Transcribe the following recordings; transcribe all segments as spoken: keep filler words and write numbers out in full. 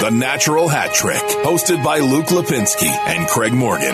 The Natural Hat Trick, hosted by Luke Lipinski and Craig Morgan.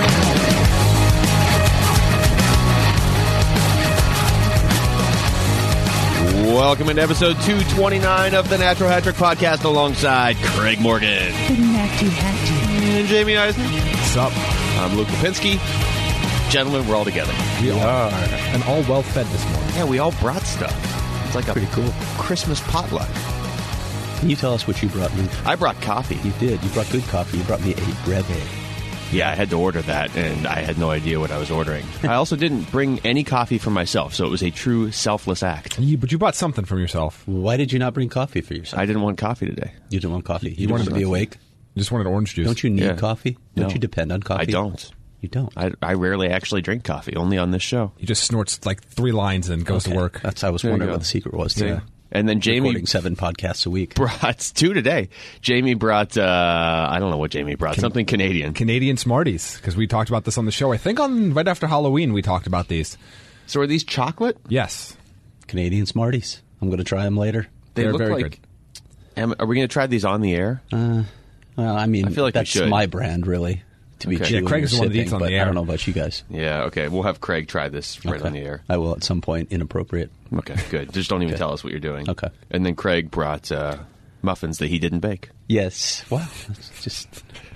Welcome into episode two twenty-nine of the Natural Hat Trick podcast alongside Craig Morgan. The Natty Hattie. And Jamie Eisner. What's up? I'm Luke Lipinski. Gentlemen, we're all together. We are. And all well fed this morning. Yeah, we all brought stuff. It's like a pretty cool Christmas potluck. Can you tell us what you brought, Luke? I brought coffee. You did. You brought good coffee. You brought me a breve. Yeah, I had to order that, and I had no idea what I was ordering. I also didn't bring any coffee for myself, so it was a true selfless act. You, but you bought something from yourself. Why did you not bring coffee for yourself? I didn't want coffee today. You didn't want coffee. You, You didn't wanted want to be awake? You just wanted orange juice. Don't you need Yeah. coffee? Don't No. you depend on coffee? I don't. You don't? I, I rarely actually drink coffee, only on this show. He just snorts like three lines and goes Okay. to work. That's I was There you wondering go. what the secret was. Yeah. To And then Jamie recording seven podcasts a week. brought two today. Jamie brought, uh, I don't know what Jamie brought, something Canadian. Canadian Smarties, because we talked about this on the show. I think on right after Halloween we talked about these. So are these chocolate? Yes. Canadian Smarties. I'm going to try them later. They They're look very like. Am, are we going to try these on the air? Uh, well, I mean, I feel like we that's should. my brand, really. To be Okay. chewing Yeah, Craig or is the one that sipping, eats on but the I air. don't know about you guys. Yeah, okay. We'll have Craig try this right Okay. on the air. I will at some point. Inappropriate. Okay, good. Just don't even Okay. tell us what you're doing. Okay. And then Craig brought uh, muffins that he didn't bake. Yes. Wow. That's just.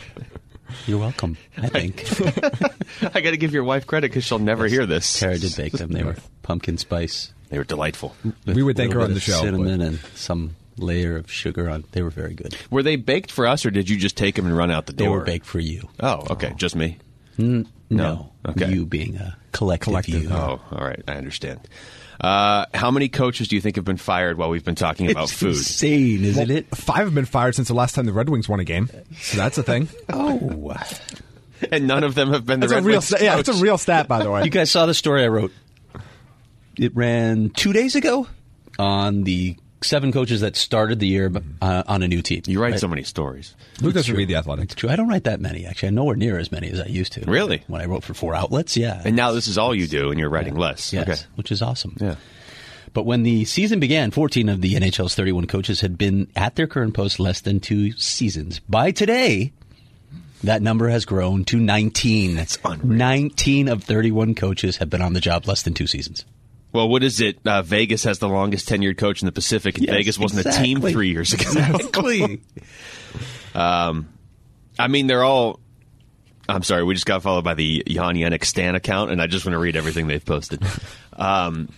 You're welcome. I think. I got to give your wife credit because she'll never hear this. Tara did bake them. They were pumpkin spice. They were delightful. We would thank Little her on bit the of show, Cinnamon and some layer of sugar on. They were very good. Were they baked for us, or did you just take them and run out the They door? were baked for you. Oh, okay. Just me? No. No. Okay. You being a collective, Collective, you. Oh, all right. I understand. Uh, how many coaches do you think have been fired while we've been talking about It's food? insane, isn't it? Five have been fired since the last time the Red Wings won a game. So that's a thing. Oh. And none of them have been the That's Red a real Wings sta- yeah, it's a coach. real stat, by the way. You guys saw the story I wrote. It ran two days ago on the seven coaches that started the year uh, on a new team. You write Right? so many stories. Luke doesn't read The Athletic. It's true. I don't write that many, actually. I'm nowhere near as many as I used to. Really? When I wrote for four outlets, yeah. And now this is all you do, and you're writing less. Yes, Okay. which is awesome. Yeah. But when the season began, fourteen of the N H L's thirty-one coaches had been at their current post less than two seasons. By today, that number has grown to nineteen. That's unreal. nineteen of thirty-one coaches have been on the job less than two seasons. Well, what is it? Uh, Vegas has the longest tenured coach in the Pacific, and Yes, Vegas wasn't a exactly. team three years ago. Exactly. I mean, they're all. I'm sorry, we just got followed by the Jan Yannick Stan account, and I just want to read everything they've posted. Um,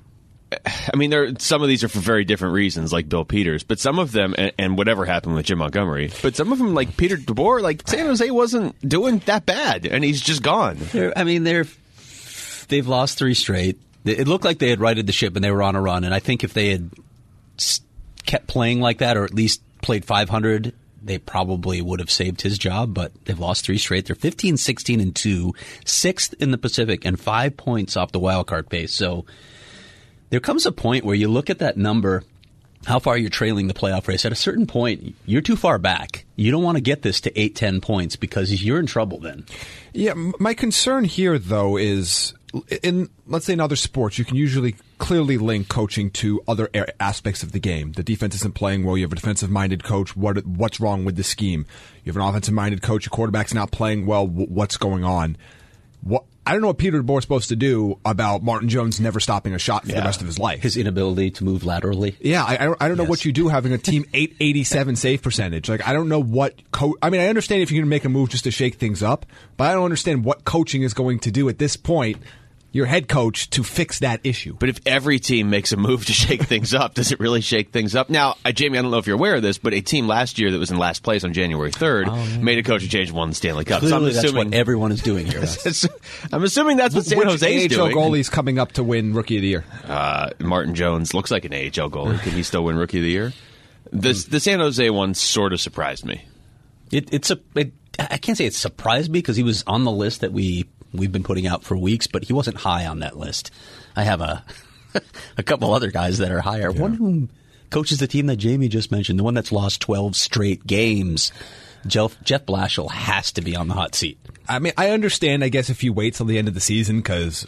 I mean, there some of these are for very different reasons, like Bill Peters, but some of them, and, and whatever happened with Jim Montgomery, but some of them, like Peter DeBoer, like San Jose wasn't doing that bad, and he's just gone. They're, I mean, they're they've lost three straight. It looked like they had righted the ship and they were on a run. And I think if they had s- kept playing like that, or at least played five hundred, they probably would have saved his job. But they've lost three straight. They're fifteen, sixteen, and two, sixth in the Pacific, and five points off the wild card pace. So there comes a point where you look at that number, how far you're trailing the playoff race. At a certain point, you're too far back. You don't want to get this to eight, ten points because you're in trouble then. Yeah, m- my concern here, though, is in, let's say, in other sports, you can usually clearly link coaching to other a- aspects of the game. The defense isn't playing well. You have a defensive-minded coach. What What's wrong with the scheme? You have an offensive-minded coach. Your quarterback's not playing well. W- what's going on? What I don't know what Peter DeBoer's supposed to do about Martin Jones never stopping a shot for the rest of his life. His inability to move laterally. Yeah, I, I don't, I don't know Yes. what you do having a team eight eighty-seven save percentage. Like, I don't know what co- I mean, I understand if you're going to make a move just to shake things up, but I don't understand what coaching is going to do at this point, your head coach, to fix that issue. But if every team makes a move to shake things up, does it really shake things up? Now, uh, Jamie, I don't know if you're aware of this, but a team last year that was in last place on January third made a coaching change and won the Stanley Cup. Clearly, so I'm that's assuming, what everyone is doing here. I'm assuming that's what San Which Jose's A H L doing. goalie's coming up to win Rookie of the Year? Uh, Martin Jones looks like an A H L goalie. Can he still win Rookie of the Year? This, the San Jose one sort of surprised me. It, it's a. It, I can't say it surprised me because he was on the list that we we've been putting out for weeks, but he wasn't high on that list. I have a a couple other guys that are higher. Yeah. One of whom coaches the team that Jamie just mentioned, the one that's lost twelve straight games. Jeff, Jeff Blashill has to be on the hot seat. I mean, I understand, I guess, if you wait till the end of the season because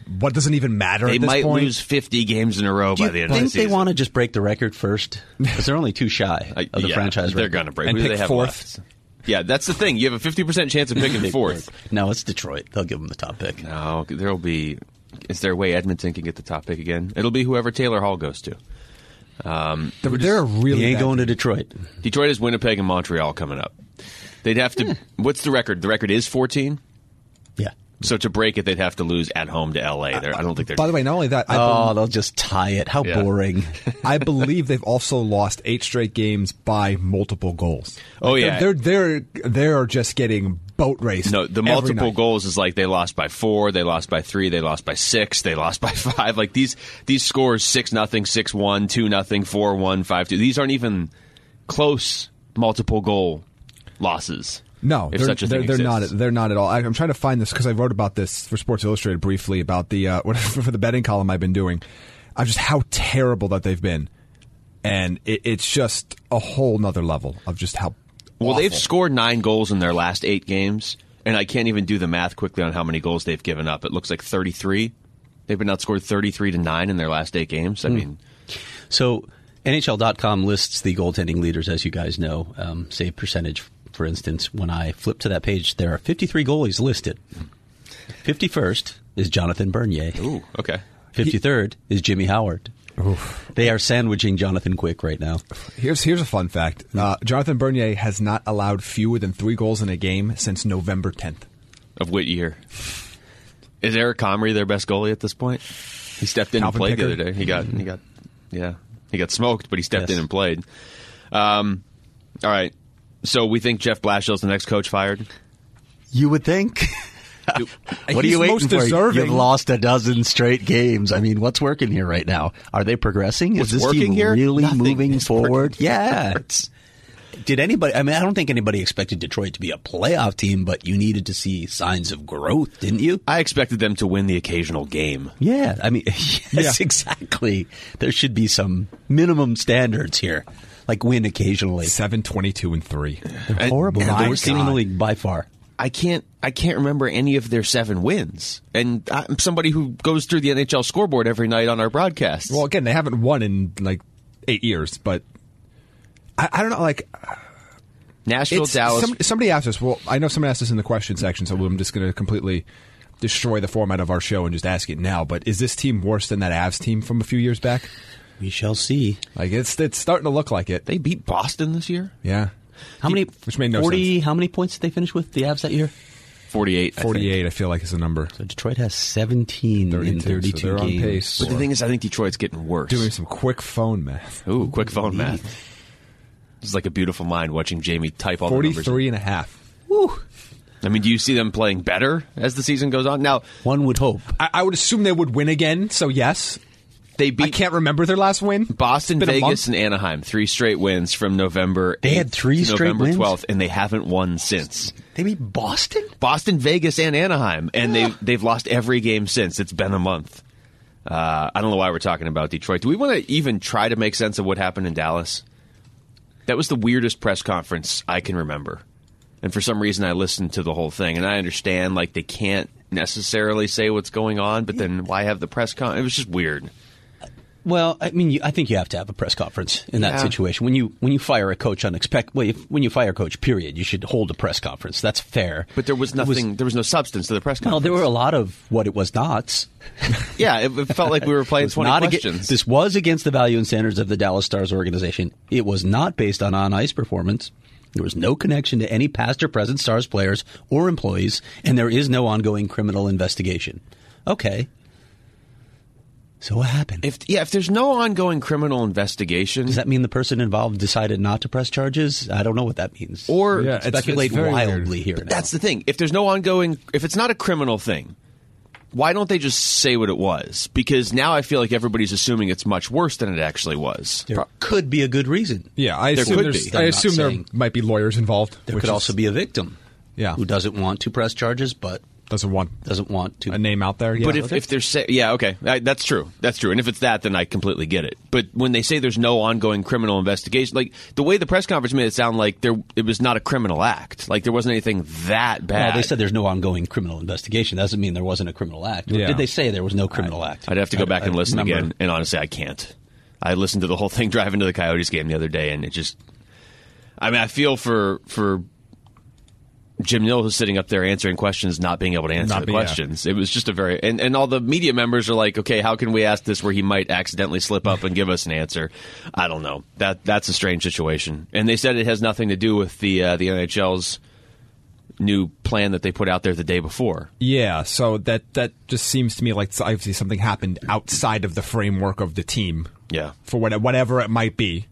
what doesn't even matter They at this might point. lose fifty games in a row Do by you the end of think the season. they want to just break the record first? Because they're only two shy Uh, of the yeah, franchise They're record. going to break. And Who do pick they have fourth. left? Yeah, that's the thing. You have a fifty percent chance of picking fourth. No, it's Detroit. They'll give them the top pick. No, there'll be. Is there a way Edmonton can get the top pick again? It'll be whoever Taylor Hall goes to. Um, they're, they're a really He ain't bad going to team. Detroit. Detroit is Winnipeg and Montreal coming up. They'd have to. What's the record? The record is fourteen. Yeah. So to break it, they'd have to lose at home to L A. They're, I don't think they're. By the way, not only that, I, Oh, bel- they'll just tie it. How Yeah. boring. I believe they've also lost eight straight games by multiple goals. Oh, Like, yeah. they're they're they're, they're just getting boat raced. No, the every multiple night. goals is like they lost by four, they lost by three, they lost by six, they lost by five. Like these these scores six nothing, six one, two nothing, four one, five two. These aren't even close multiple goal losses. No, if they're, such a they're, thing they're not. exists. They're not at all. I, I'm trying to find this because I wrote about this for Sports Illustrated briefly about the uh, for the betting column I've been doing. Of just how terrible that they've been, and it, it's just a whole nother level of just how. Well, awful. they've scored nine goals in their last eight games, and I can't even do the math quickly on how many goals they've given up. It looks like thirty-three. They've been outscored thirty-three to nine in their last eight games. I mean, So N H L dot com lists the goaltending leaders, as you guys know, um, save percentage. For instance, when I flip to that page, there are fifty-three goalies listed. fifty-first is Jonathan Bernier. ooh, okay. fifty-third is Jimmy Howard. They are sandwiching Jonathan Quick right now. Here's here's a fun fact. Uh, Jonathan Bernier has not allowed fewer than three goals in a game since November tenth. Of what year? Is Eric Comrie their best goalie at this point? He stepped in Calvin and played Pickard. the other day. He got, he got, yeah, he got smoked, but he stepped Yes. in and played. Um, all right. So we think Jeff Blashill's the next coach fired. You would think. Do- What are He's you waiting most for? deserving. You've lost a dozen straight games. I mean, what's working here right now? Are they progressing? What's Is this working team here? really Nothing moving is forward? working. Yeah. It's, did anybody? I mean, I don't think anybody expected Detroit to be a playoff team, but you needed to see signs of growth, didn't you? I expected them to win the occasional game. Yeah. I mean, yes, Yeah. exactly. There should be some minimum standards here, like win occasionally. Seven twenty-two and three. They're horrible. and They're the the worst worst team in the God. league by far. I can't I can't remember any of their seven wins. And I'm somebody who goes through the N H L scoreboard every night on our broadcasts. Well, again, they haven't won in like eight years, but I, I don't know. Like Nashville, it's, Dallas. some, somebody asked us. Well, I know somebody asked us in the question section, so I'm just going to completely destroy the format of our show and just ask it now. But is this team worse than that Avs team from a few years back? We shall see. Like it's it's starting to look like it. they beat Boston this year? Yeah, How many? Which made no forty. sense. How many points did they finish with the Avs that year? forty-eight. I think. forty-eight. I feel like is a number. So Detroit has seventeen in thirty-two, so thirty-two they're on games. pace. But the thing is, I think Detroit's getting worse. Doing some quick phone math. Ooh, quick phone math. It's like a beautiful mind watching Jamie type all the numbers. Forty-three and a half. Woo. I mean, do you see them playing better as the season goes on? Now, One would hope. I, I would assume they would win again. So yes, they I beat can't remember their last win. Boston, It's been a Vegas, month. and Anaheim. Three straight wins from November They had eighth three to straight November wins? twelfth, and they haven't won since. They beat Boston. Boston, Vegas, and Anaheim, and they they've lost every game since. It's been a month. Uh, I don't know why we're talking about Detroit. Do we want to even try to make sense of what happened in Dallas? That was the weirdest press conference I can remember, and for some reason I listened to the whole thing, and I understand like they can't necessarily say what's going on, but then why have the press con? It was just weird. Well, I mean, you, I think you have to have a press conference in that Yeah. situation. When you when you fire a coach unexpected, well, if, when you fire a coach, period, you should hold a press conference. That's fair. But there was It was- nothing. there was no substance to the press No, conference. there were a lot of what it was not. Yeah, it, it felt like we were playing was twenty not aga- questions. this was against the value and standards of the Dallas Stars organization. It was not based on on-ice performance. There was no connection to any past or present Stars players or employees, and there is no ongoing criminal investigation. Okay. So what happened? If yeah, if there's no ongoing criminal investigation, Does that mean the person involved decided not to press charges? I don't know what that means. or Yeah, it's- speculate it's very wildly weird. here. But now. that's the thing. If there's no ongoing, if it's not a criminal thing, why don't they just say what it was? Because now I feel like everybody's assuming it's much worse than it actually was. There could be a good reason. Yeah, I There assume, could there's- be. I I'm assume not there saying- might be lawyers involved. There which could is- also be a victim Yeah. who doesn't want to press charges but doesn't want Doesn't want to. a name out there. Yeah, But if, okay. if they're say, yeah, okay, I, that's true. That's true. And if it's that, then I completely get it. But when they say there's no ongoing criminal investigation, like the way the press conference made it sound like there, it was not a criminal act. Like there wasn't anything that bad. Well, they said there's no ongoing criminal investigation. That doesn't mean there wasn't a criminal act. Or Yeah. did they say there was no criminal act? I'd have to go I- back I and listen remember. again. And honestly, I can't. I listened to the whole thing driving to the Coyotes game the other day, and it just. I mean, I feel for for Jim Nill, who's sitting up there answering questions, not being able to answer Not the be- yeah. questions. It was just a very and, and all the media members are like, okay, how can we ask this where he might accidentally slip up and give us an answer? I don't know. That that's a strange situation. And they said it has nothing to do with the uh, the N H L's new plan that they put out there the day before. Yeah, so that that just seems to me like obviously something happened outside of the framework of the team. Yeah. For what, whatever it might be.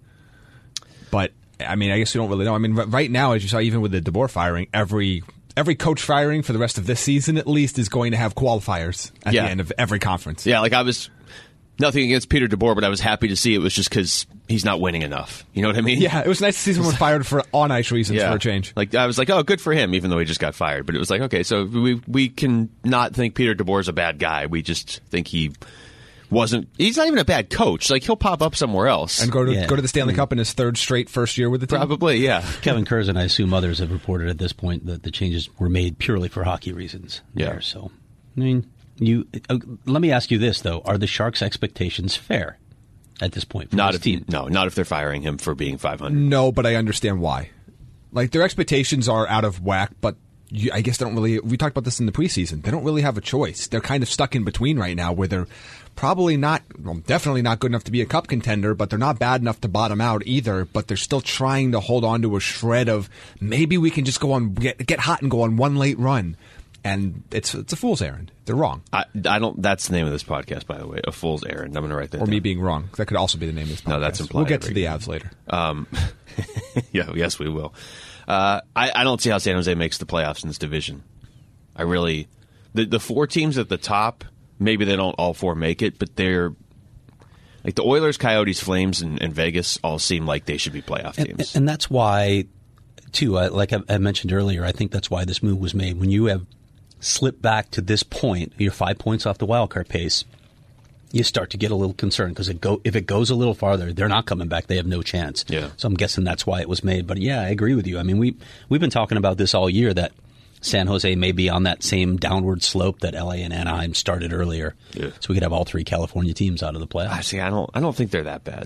But, I mean, I guess we don't really know. I mean, r- right now, as you saw, even with the DeBoer firing, every every coach firing for the rest of this season, at least, is going to have qualifiers at Yeah. the end of every conference. Yeah, like I was nothing against Peter DeBoer, but I was happy to see it was just because he's not winning enough. You know what I mean? Yeah, it was nice to see someone fired for on-ice reasons for a change. Like I was like, oh, good for him, even though he just got fired. But it was like, okay, so we we can not think Peter DeBoer's a bad guy. We just think he wasn't. He's not even a bad coach. Like he'll pop up somewhere else. And go to Yeah. go to the Stanley Cup in his third straight first year with the team. Probably, yeah. Kevin Kurz and I assume others have reported at this point that the changes were made purely for hockey reasons. Yeah. There. So, I mean, you. Uh, let me ask you this though: are the Sharks' expectations fair at this point? For Not this if team. no, not if they're firing him for being five hundred. No, but I understand why. Like, their expectations are out of whack, but you, I guess they don't really... We talked about this in the preseason. They don't really have a choice. They're kind of stuck in between right now where they're probably not... Well, definitely not good enough to be a cup contender, but they're not bad enough to bottom out either, but they're still trying to hold on to a shred of maybe we can just go on... Get, get hot and go on one late run. And it's it's a fool's errand. They're wrong. I, I don't. That's the name of this podcast, by the way. A fool's errand. I'm going to write that. Or down. me being wrong. That could also be the name of this podcast. No, that's implied We'll get to every- the Avs later. Um, yeah, yes, we will. Uh, I, I don't see how San Jose makes the playoffs in this division. I really, the the four teams at the top, maybe they don't all four make it, but they're like the Oilers, Coyotes, Flames, and, and Vegas all seem like they should be playoff And, teams. and that's why, too. I, like I, I mentioned earlier, I think that's why this move was made. When you have slipped back to this point, you're five points off the wild card pace. You start to get a little concerned because it go if it goes a little farther, they're not coming back. They have no chance. Yeah. So I'm guessing that's why it was made. But yeah, I agree with you. I mean, we we've been talking about this all year that San Jose may be on that same downward slope that L A and Anaheim started earlier. Yeah. So we could have all three California teams out of the playoffs. I see. I don't. I don't think they're that bad.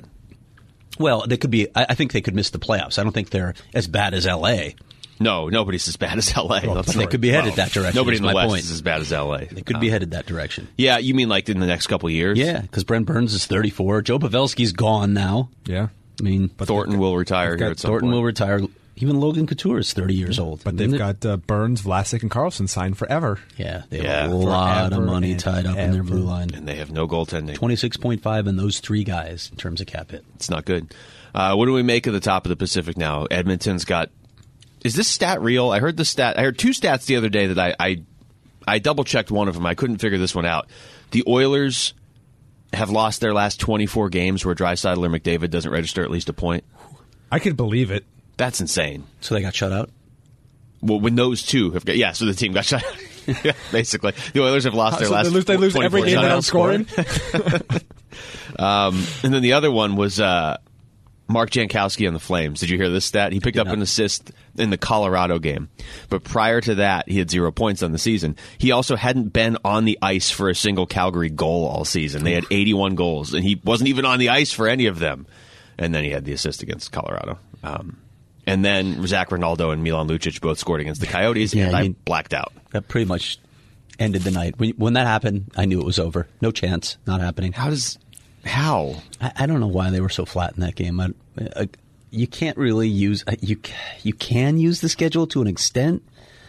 Well, they could be. I, I think they could miss the playoffs. I don't think they're as bad as L A. No, nobody's as bad as L A. But they could be headed that direction. Nobody is in the my West point. is as bad as L A. They could be headed that direction. Yeah, you mean like in the next couple of years? Yeah, because Brent Burns is thirty-four. Joe Pavelski's gone now. Yeah. I mean, But Thornton will retire they've here got at some Thornton point. will retire. Even Logan Couture is thirty years old. But they've Isn't it? got uh, Burns, Vlasic, and Carlson signed forever. Yeah, they have Yeah. a lot Forever of money and tied up in their ever. blue line. and they have no goaltending. twenty-six point five in those three guys in terms of cap hit. It's not good. Uh, what do we make of the top of the Pacific now? Edmonton's got. Is this stat real? I heard the stat. I heard two stats the other day that I I, I double checked one of them. I couldn't figure this one out. The Oilers have lost their last twenty-four games where Draisaitl or McDavid doesn't register at least a point. I could believe it. That's insane. So they got shut out? Well, when those two have got, yeah, so the team got shut out. Yeah, basically. The Oilers have lost their So last they lose, they lose every twenty-four game without shutouts. scoring? Um, and then the other one was uh, Mark Jankowski on the Flames. Did you hear this stat? He picked up not. an assist in the Colorado game. But prior to that, he had zero points on the season. He also hadn't been on the ice for a single Calgary goal all season. They had eighty-one goals, and he wasn't even on the ice for any of them. And then he had the assist against Colorado. Um, and then Zach Ronaldo and Milan Lucic both scored against the Coyotes, Yeah, and I you- blacked out. That pretty much ended the night. When, when that happened, I knew it was over. No chance. Not happening. How does... How? I, I don't know why they were so flat in that game. I, I, you can't really use you. You can use the schedule to an extent,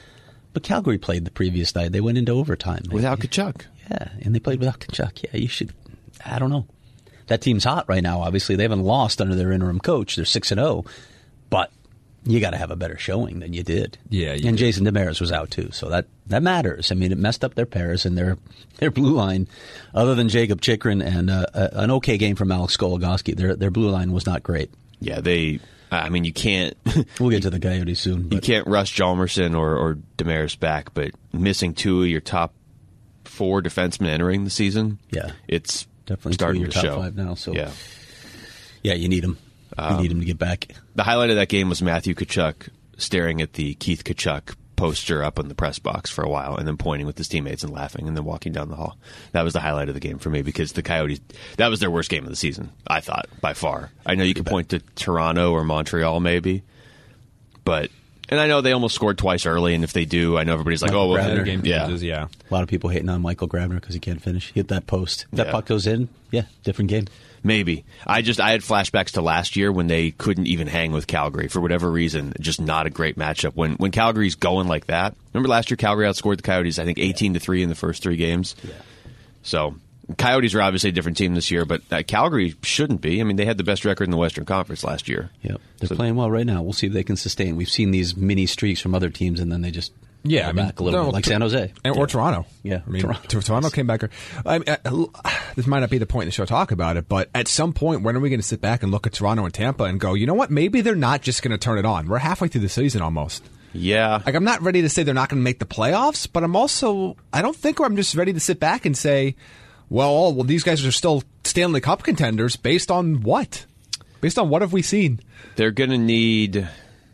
but Calgary played the previous night. They went into overtime Without Kachuk. Yeah, and they played without Kachuk. Yeah, you should. I don't know. That team's hot right now. Obviously, they haven't lost under their interim coach. They're six and zero, but you got to have a better showing than you did. Yeah, you and do. Jason Demers was out too, so that that matters. I mean, it messed up their pairs and their their blue line. Other than Jacob Chikrin and uh, a, an okay game from Alex Goligoski, their their blue line was not great. Yeah, they I mean, you can't. We'll get to the Coyotes soon. You But can't rush Hjalmarsson or, or Demaris back, but missing two of your top four defensemen entering the season, Yeah. it's definitely two of starting your to top show. five now. So Yeah. yeah, you need him. You need him to get back. The highlight of that game was Matthew Tkachuk staring at the Keith Tkachuk poster up in the press box for a while and then pointing with his teammates and laughing and then walking down the hall. That was the highlight of the game for me because the Coyotes, that was their worst game of the season, I thought, by far. I know you could point to Toronto or Montreal maybe, but, and I know they almost scored twice early, and if they do, I know everybody's like, Michael oh, well, Grabner. Game yeah. changes, yeah. A lot of people hating on Michael Grabner because he can't finish. Hit that post. If that Yeah. puck goes in, yeah, different game. Maybe. I just I had flashbacks to last year when they couldn't even hang with Calgary for whatever reason. Just not a great matchup. When when Calgary's going like that. Remember last year Calgary outscored the Coyotes I think eighteen to three in the first three games. Yeah. So Coyotes are obviously a different team this year, but uh, Calgary shouldn't be. I mean, they had the best record in the Western Conference last year. Yep. They're So- playing well right now. We'll see if they can sustain. We've seen these mini streaks from other teams, and then they just Yeah, go I mean, back a little no, bit, like Tor- San Jose. And, or Toronto. Yeah, I mean, Toronto. Toronto, Toronto came back. I mean, uh, this might not be the point in the show to talk about it, but at some point, when are we going to sit back and look at Toronto and Tampa and go, you know what? Maybe they're not just going to turn it on. We're halfway through the season almost. Yeah. Like, I'm not ready to say they're not going to make the playoffs, but I'm also, I don't think I'm just ready to sit back and say, well, oh, well, these guys are still Stanley Cup contenders based on what? Based on what have we seen? They're going to need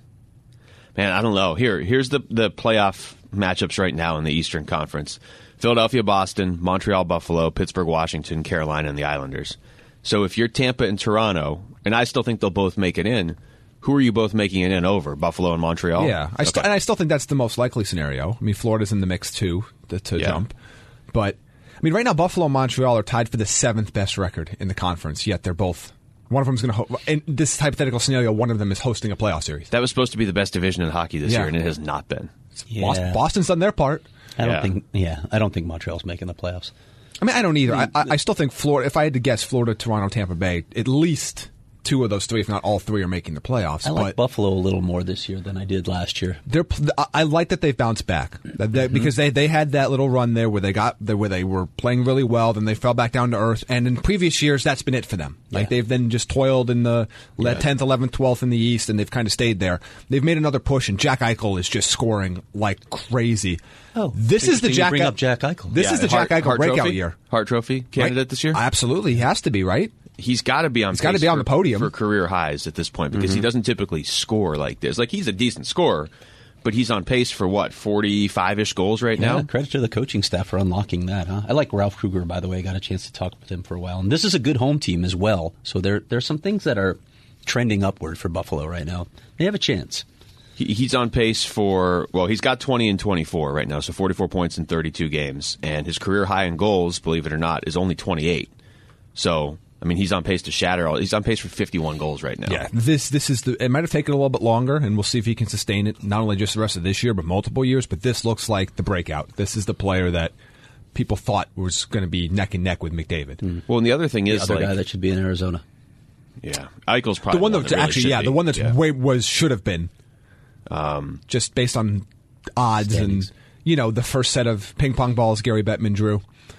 Man, I don't know. Here here's the the playoff matchups right now in the Eastern Conference. Philadelphia, Boston, Montreal, Buffalo, Pittsburgh, Washington, Carolina, and the Islanders. So if you're Tampa and Toronto, and I still think they'll both make it in, who are you both making it in over? Buffalo and Montreal? Yeah, I st- Okay. and I still think that's the most likely scenario. I mean, Florida's in the mix too to, to Yeah. jump, but I mean, right now Buffalo and Montreal are tied for the seventh best record in the conference. Yet they're both one of them's going to. Ho- in this hypothetical scenario, one of them is hosting a playoff series. That was supposed to be the best division in hockey this Yeah. year, and it has not been. Yeah. Boston, Boston's done their part. I don't Yeah. think. Yeah, I don't think Montreal's making the playoffs. I mean, I don't either. I, I, I still think Florida. If I had to guess, Florida, Toronto, Tampa Bay, at least two of those three, if not all three, are making the playoffs. I like but Buffalo a little more this year than I did last year. they're. I- I like that they've bounced back That- that- because they, they had that little run there where they got where they were playing really well, then they fell back down to earth, and in previous years that's been it for them. Like Yeah. they've then just toiled in the tenth, eleventh, twelfth in the East, and they've kind of stayed there. They've made another push, and Jack Eichel is just scoring like crazy. Oh, this is the interesting you Jack. bring Ei- up Jack Eichel. This Yeah, is the Hart- Jack Eichel Hart breakout Trophy? year. Hart Trophy candidate Right? this year? Absolutely, he has to be, right? He's got to be on. He's gotta pace be on for- the podium. for career highs at this point because Mm-hmm. he doesn't typically score like this. Like he's a decent scorer, but he's on pace for what forty-five ish goals right Yeah, now. credit to the coaching staff for unlocking that. Huh? I like Ralph Kruger, by the way. I got a chance to talk with him for a while, and this is a good home team as well. So there, there's some things that are trending upward for Buffalo right now. They have a chance. He, he's on pace for well, he's got twenty and twenty-four right now, so forty-four points in thirty-two games, and his career high in goals, believe it or not, is only twenty-eight. So. I mean, he's on pace to shatter all. He's on pace for fifty-one goals right now. Yeah, this this is the. It might have taken a little bit longer, and we'll see if he can sustain it. Not only just the rest of this year, but multiple years. But this looks like the breakout. This is the player that people thought was going to be neck and neck with McDavid. Well, and the other thing The is, other like, guy that should be in Arizona. yeah, Eichel's probably The one that that's really actually, should yeah, be. the one that's Yeah. way was should have been, um, just based on odds Standings. and you know the first set of ping pong balls Gary Bettman drew.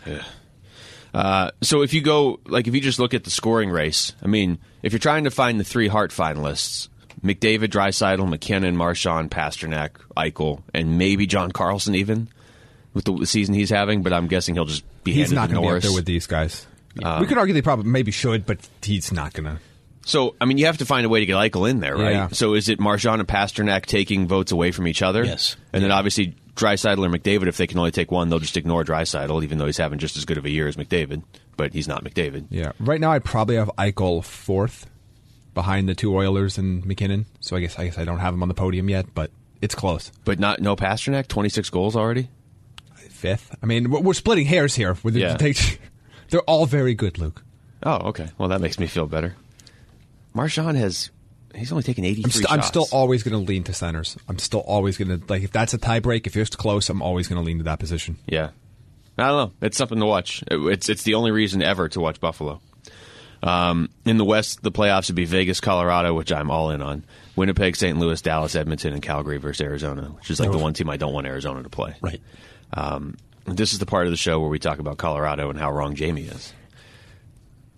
Uh, so if you go, like, if you just look at the scoring race, I mean, if you're trying to find the three Hart finalists, McDavid, Draisaitl, McKinnon, Marchand, Pasternak, Eichel, and maybe John Carlson even with the season he's having, but I'm guessing he'll just be He's handed not to going to be up Norris. there with these guys. we could argue they probably maybe should, but he's not going to. So, I mean, you have to find a way to get Eichel in there, right? Yeah. So is it Marchand and Pasternak taking votes away from each other? Yes. And then obviously Draisaitl or McDavid, if they can only take one, they'll just ignore Draisaitl, even though he's having just as good of a year as McDavid. But he's not McDavid. Yeah, right now I probably have Eichel fourth, behind the two Oilers and McKinnon. So I guess I guess I don't have him on the podium yet, but it's close. But not no Pasternak, twenty-six goals already? Fifth. I mean, we're we're splitting hairs here. With the- Yeah. they, they're all very good, Luke. Oh, okay. Well, that makes me feel better. Marchand has, he's only taken eighty-three I'm, st- shots. I'm still always going to lean to centers. I'm still always going to, like, if that's a tie break, if it's close, I'm always going to lean to that position. Yeah. I don't know. It's something to watch. It- It's it's the only reason ever to watch Buffalo. Um, in the West, the playoffs would be Vegas, Colorado, which I'm all in on. Winnipeg, Saint Louis, Dallas, Edmonton, and Calgary versus Arizona, which is like the one team I don't want Arizona to play. Right. Um, this is the part of the show where we talk about Colorado and how wrong Jamie is.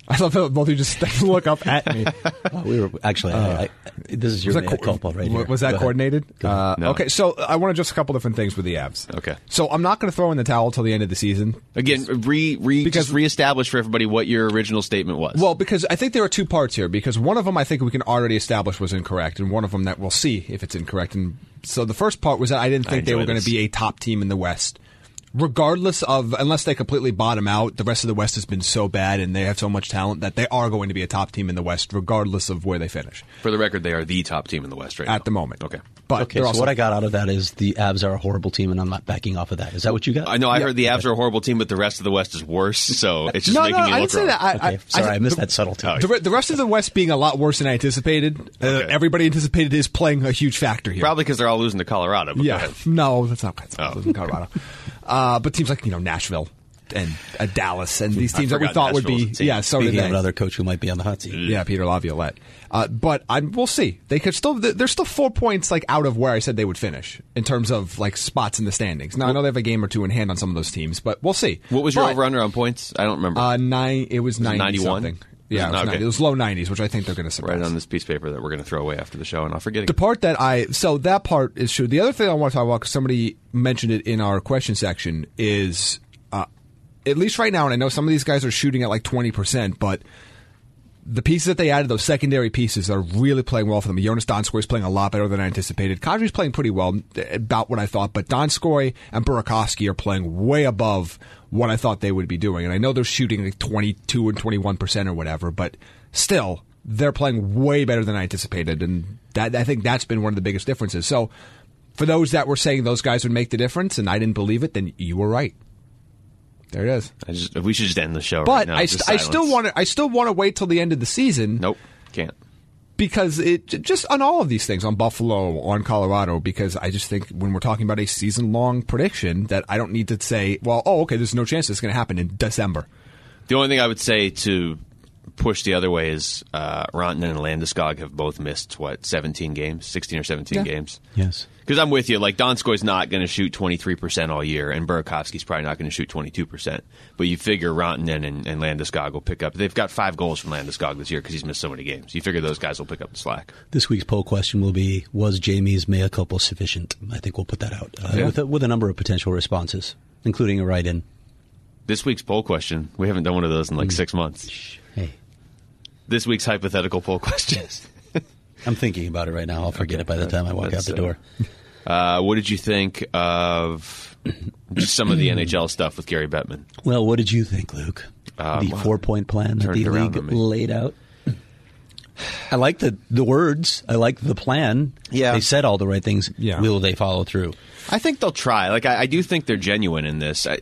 I love how both of you just look up at me. Oh, we were actually. Uh, I, I, this is your was mea that co- culpa right here. Was that Go coordinated? Uh, No. Okay, so I want to just a couple different things with the Avs. Okay. So I'm not going to throw in the towel till the end of the season. Again, re, re, Because- just reestablish for everybody what your original statement was. Well, because I think there are two parts here. Because one of them I think we can already establish was incorrect, and one of them that we'll see if it's incorrect. And so the first part was that I didn't I think they enjoy were going this. to be a top team in the West. Regardless of, unless they completely bottom out, the rest of the West has been so bad and they have so much talent that they are going to be a top team in the West, regardless of where they finish for the record, they are the top team in the West right now. at the moment. Okay. But Okay, they're so also, what I got out of that is the Avs are a horrible team, and I'm not backing off of that. Is that what you got? I know I Yeah. heard the Avs are a horrible team, but the rest of the West is worse, so it's just no, making no, me I look didn't say wrong. that. I, Okay, I, sorry, I, I missed the, that subtlety. Oh, The, re- the rest of the West being a lot worse than I anticipated. Uh, Okay. Everybody anticipated is playing a huge factor here. Probably because they're all losing to Colorado. But go Yeah, ahead. no, that's not that's not Oh. in Colorado. Uh, but teams like you know Nashville and uh, Dallas and these I teams that we forgot thought would Nashville be was a team. yeah. So Speaking did of they. another coach who might be on the hot seat. Yeah, Peter Laviolette. Uh, but I, we'll see. They could still. They're still four points like out of where I said they would finish in terms of like spots in the standings. Now I know they have a game or two in hand on some of those teams, but we'll see. What was your But, over under on points? I don't remember. Uh, nine. It was ninety ninety-one? something. Yeah, it was, Okay. ninety. It was low nineties, which I think they're going to surpass. right on this piece of paper that we're going to throw away after the show, and I'll forget The again. part that I so that part is true. The other thing I want to talk about, because somebody mentioned it in our question section, is uh, at least right now, and I know some of these guys are shooting at like twenty percent, but the pieces that they added, those secondary pieces, are really playing well for them. Jonas Donskoy is playing a lot better than I anticipated. Kadri's playing pretty well, about what I thought, but Donskoy and Burakovsky are playing way above what I thought they would be doing. And I know they're shooting like twenty-two and twenty-one percent or whatever, but still, they're playing way better than I anticipated, and that I think that's been one of the biggest differences. So, for those that were saying those guys would make the difference, and I didn't believe it, then you were right. There it is. I just, we should just end the show But right now. I, Just st- I still silence. want to. I still want to wait till the end of the season. Nope, can't. Because it j- just on all of these things, on Buffalo, on Colorado, because I just think when we're talking about a season long prediction, that I don't need to say, well, oh, okay, there's no chance it's going to happen in December. The only thing I would say to push the other way is uh, Rantanen and Landeskog have both missed, what, seventeen games? sixteen or seventeen Yeah. games? Yes. Because I'm with you. Like, Donskoy's not going to shoot twenty-three percent all year, and Burakovsky's probably not going to shoot twenty-two percent. But you figure Rantanen and, and Landeskog will pick up. They've got five goals from Landeskog this year because he's missed so many games. You figure those guys will pick up the slack. This week's poll question will be: was Jamie's mea culpa sufficient? I think we'll put that out uh, Yeah. with, a, with a number of potential responses, including a write-in. This week's poll question, we haven't done one of those in like six months. Hey, This week's hypothetical poll question. I'm thinking about it right now. I'll forget Okay. it by the time I walk out That's, the uh, door. Uh, what did you think of just some of the N H L stuff with Gary Bettman? Well, what did you think, Luke? Uh, the well, four-point plan that turned the it around league on me. laid out. I like the the words. I like the plan. Yeah. They said all the right things. Yeah. Will they follow through? I think they'll try. Like, I, I do think they're genuine in this. I,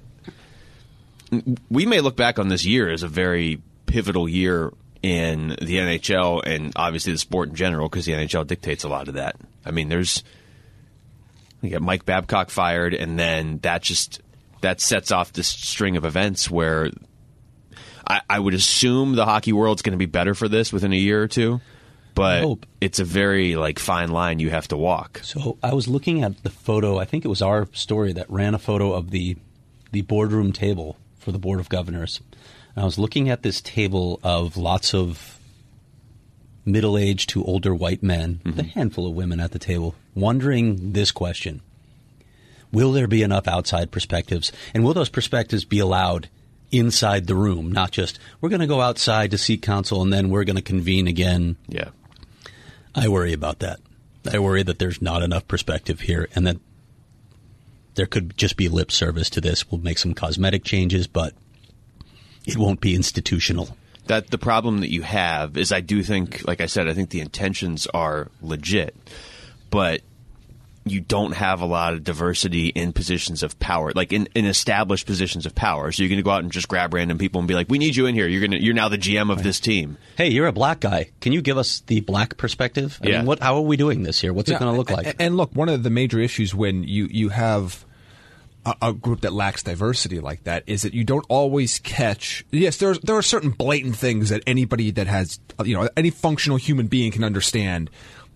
we may look back on this year as a very pivotal year in the N H L and obviously the sport in general because the N H L dictates a lot of that. I mean, there's you get Mike Babcock fired, and then that just that sets off this string of events where I, I would assume the hockey world's going to be better for this within a year or two. But hope. it's a very like fine line you have to walk. So I was looking at the photo. I think it was our story that ran a photo of the the boardroom table for the Board of Governors. And I was looking at this table of lots of middle-aged to older white men, with a handful of women at the table, wondering this question. Will there be enough outside perspectives? And will those perspectives be allowed inside the room? Not just, we're going to go outside to seek counsel and then we're going to convene again. Yeah. I worry about that. I worry that there's not enough perspective here and that there could just be lip service to this. We'll make some cosmetic changes, but it won't be institutional. That the problem that you have is I do think, like I said, I think the intentions are legit, but you don't have a lot of diversity in positions of power, like in, in established positions of power. So you're going to go out and just grab random people and be like, "We need you in here. You're going to, you're now the G M of this team." Hey, you're a black guy. Can you give us the black perspective? I Yeah. mean, what? How are we doing this here? What's it going to look like? And, and look, one of the major issues when you, you have a, a group that lacks diversity like that is that you don't always catch. Yes, there's there are certain blatant things that anybody that has, you know, any functional human being can understand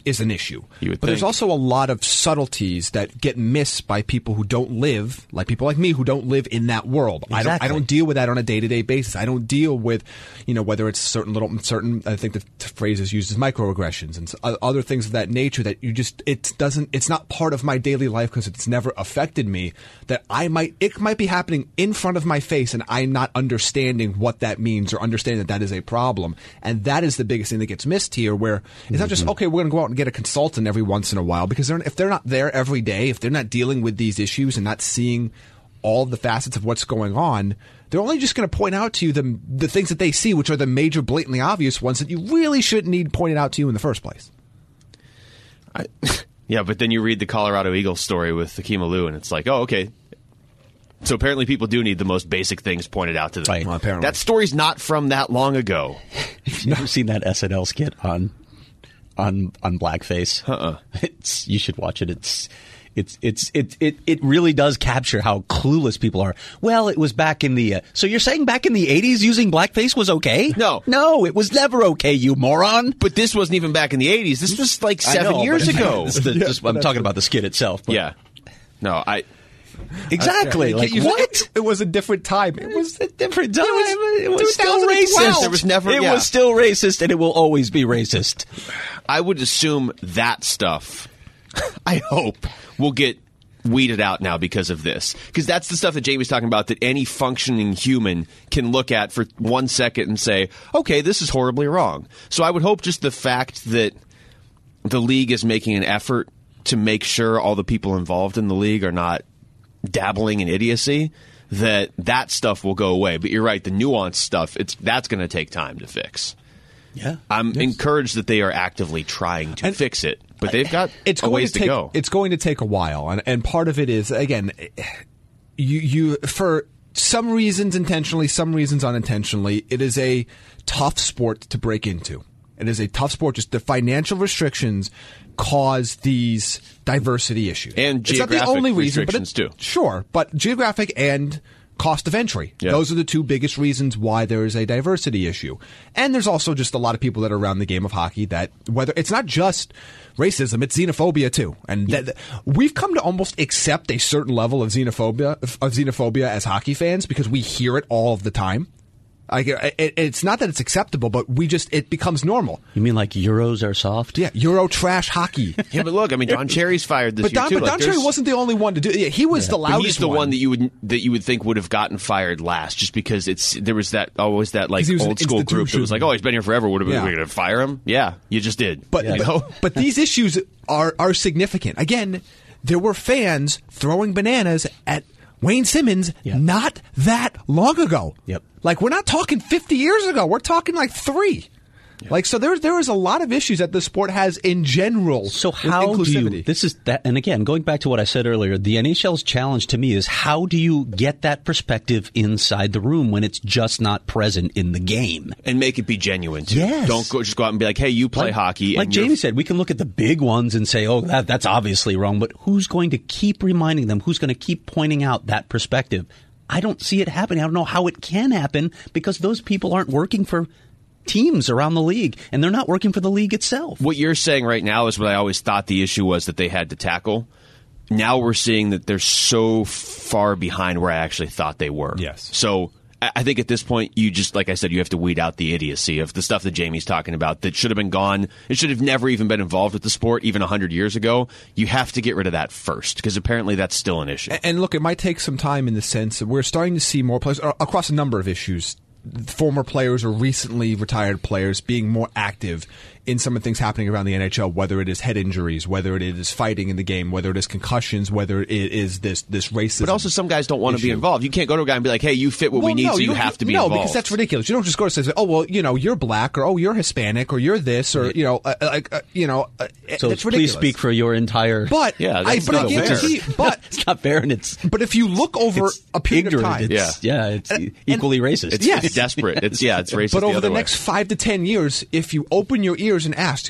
is an issue. You would but there's think. also a lot of subtleties that get missed by people who don't live, like people like me who don't live in that world. I don't I Exactly. don't deal with that on a day-to-day basis. I don't deal with, you know, whether it's certain little certain I think the t- phrase is used as microaggressions and s- o- other things of that nature that you just it doesn't it's not part of my daily life because it's never affected me, that I might it might be happening in front of my face and I'm not understanding what that means or understanding that that is a problem. And that is the biggest thing that gets missed here, where it's not just, okay, we're going to go out and get a consultant every once in a while, because they're, if they're not there every day, if they're not dealing with these issues and not seeing all the facets of what's going on, they're only just going to point out to you the, the things that they see, which are the major, blatantly obvious ones that you really shouldn't need pointed out to you in the first place. I, yeah, but then you read the Colorado Eagles story with Hakeem Alou, and it's like, oh, okay. So apparently people do need the most basic things pointed out to them. Right. Well, apparently. That story's not from that long ago. Have you ever seen that S N L skit on on on blackface? Uh-uh. It's you should watch it. It's it's it's it it it really does capture how clueless people are. Well, it was back in the uh, so you're saying back in the eighties using blackface was okay? No. no, it was never okay, you moron. But this wasn't even back in the eighties. This was like I seven know, years but- ago. This is the- Yeah, just- I'm that's talking about the skit itself. But Yeah. No, I... exactly. You like can't use- what? It, it was a different time. It was a different time. It was, still two thousand twelve. racist. There was never- It yeah. was still racist, and it will always be racist. I would assume that stuff, I hope, will get weeded out now because of this. Because that's the stuff that Jamie's talking about, that any functioning human can look at for one second and say, okay, this is horribly wrong. So I would hope just the fact that the league is making an effort to make sure all the people involved in the league are not dabbling in idiocy, that that stuff will go away. But you're right, the nuanced stuff, it's that's going to take time to fix. Yeah. I'm encouraged that they are actively trying to And- fix it, but they've got it's a going ways to, to, take, go. It's going to take a while, and and part of it is, again, you you for some reasons intentionally, some reasons unintentionally, it is a tough sport to break into. It is a tough sport. Just the financial restrictions cause these diversity issues, And it's not the geographic only reason, but restrictions, it, too. Sure, but geographic and cost of entry. Yeah. Those are the two biggest reasons why there is a diversity issue. And there's also just a lot of people that are around the game of hockey that, whether it's not just racism, it's xenophobia too. And that, we've come to almost accept a certain level of xenophobia of xenophobia as hockey fans because we hear it all of the time. Like, it, it's not that it's acceptable, but we just, it becomes normal. You mean like Euros are soft? Yeah, Euro trash hockey. yeah, but look, I mean, Don Cherry's fired this But year Don, too. but Like, Don Cherry there's- wasn't the only one to do it. Yeah, he was the but loudest he's the one. that you would that you would think would have gotten fired last, just because it's there was that always that like 'Cause he was an old school group that was like, institution. oh, he's been here forever. Would have Yeah. we going to fire him? Yeah, you just did. But, you but, know? but these issues are, are significant. Again, there were fans throwing bananas at Wayne Simmons Yeah. not that long ago. Yep. Like, we're not talking fifty years ago. We're talking like three. Like, so there, there is a lot of issues that the sport has in general. So with how do inclusivity. you, this is that, and again, going back to what I said earlier, the N H L's challenge to me is how do you get that perspective inside the room when it's just not present in the game? and make it be genuine too. Yes. Don't go just go out and be like, hey, you play Like- hockey. Like and you're- Jamie said, we can look at the big ones and say, oh, that, that's obviously wrong, but who's going to keep reminding them? Who's going to keep pointing out that perspective? I don't see it happening. I don't know how it can happen because those people aren't working for teams around the league, and they're not working for the league itself. What you're saying right now is what I always thought the issue was that they had to tackle. Now we're seeing that they're so far behind where I actually thought they were. Yes. So I I think at this point, you just, like I said, you have to weed out the idiocy of the stuff that Jamie's talking about that should have been gone. It should have never even been involved with the sport, even one hundred years ago. You have to get rid of that first, because apparently that's still an issue. And- And look, it might take some time in the sense that we're starting to see more players uh, across a number of issues. Former players or recently retired players being more active in some of the things happening around the N H L, whether it is head injuries, whether it is fighting in the game, whether it is concussions, whether it is this this racism. But also, some guys don't want to be issue. involved. You can't go to a guy and be like, hey, you fit what we Well, need, no, so you, don't- have to be no, involved. because that's ridiculous. You don't just go to say, oh, well, you know, you're black, or oh, you're Hispanic, or you're this, or you know, uh, like uh, you know, uh, So that's please ridiculous. speak for your entire. But Yeah, I, that's but I not fair. guarantee, but it's not fair, and it's but if you look over it's a period ignorant. of time, It's, yeah, it's And- equally racist. It's, Yes. it's desperate. It's yeah, it's racist. but over the, the, other way. next five to ten years, if you open your ears and ask,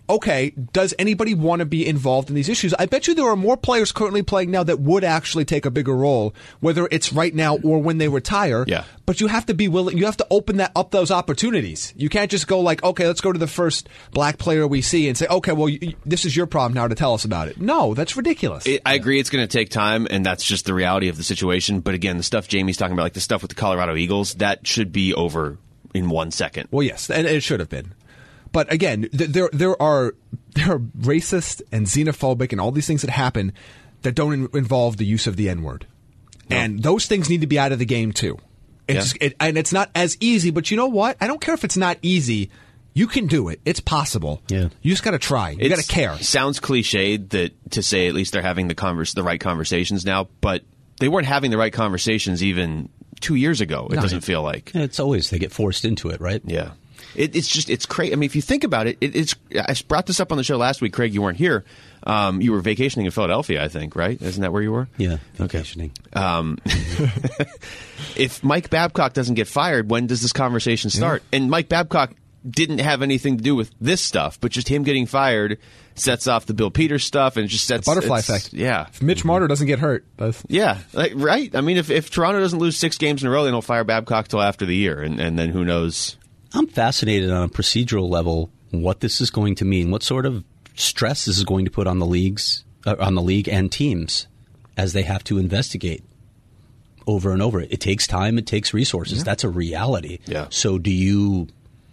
okay, does anybody want to be involved in these issues? I bet you there are more players currently playing now that would actually take a bigger role, whether it's right now or when they retire. Yeah. But you have to be willing, you have to open that up those opportunities. You can't just go like, okay, let's go to the first black player we see and say, okay, well, you, this is your problem now to tell us about it. No, that's ridiculous. It, I agree it's going to take time, and that's just the reality of the situation. But again, the stuff Jamie's talking about, like the stuff with the Colorado Eagles, that should be over in one second. Well, yes, and it should have been. But again, th- there there are there are racist and xenophobic and all these things that happen that don't in- involve the use of the N-word. No. And those things need to be out of the game too. It's, yeah. it, and it's not as easy, but you know what? I don't care if it's not easy. You can do it. It's possible. Yeah. You just got to try. You got to care. Sounds cliched that to say at least they're having the converse, the right conversations now, but they weren't having the right conversations even two years ago. It no, doesn't feel like. It's always they get forced into it, right? Yeah. It, it's just, it's crazy. I mean, if you think about it, it, it's, I brought this up on the show last week. Craig, you weren't here. Um, you were vacationing in Philadelphia, I think, right? Isn't that where you were? Yeah, vacationing. Okay. Um, if Mike Babcock doesn't get fired, when does this conversation start? Yeah. And Mike Babcock didn't have anything to do with this stuff, but just him getting fired sets off the Bill Peters stuff and it just sets the butterfly effect. Yeah. If Mitch Marner doesn't get hurt, that's... yeah, like, right. I mean, if, if Toronto doesn't lose six games in a row, they don't fire Babcock till after the year, and, and then who knows? I'm fascinated on a procedural level what this is going to mean, what sort of stress this is going to put on the leagues, uh, on the league and teams as they have to investigate over and over. It takes time, it takes resources. Yeah. That's a reality. Yeah. So do you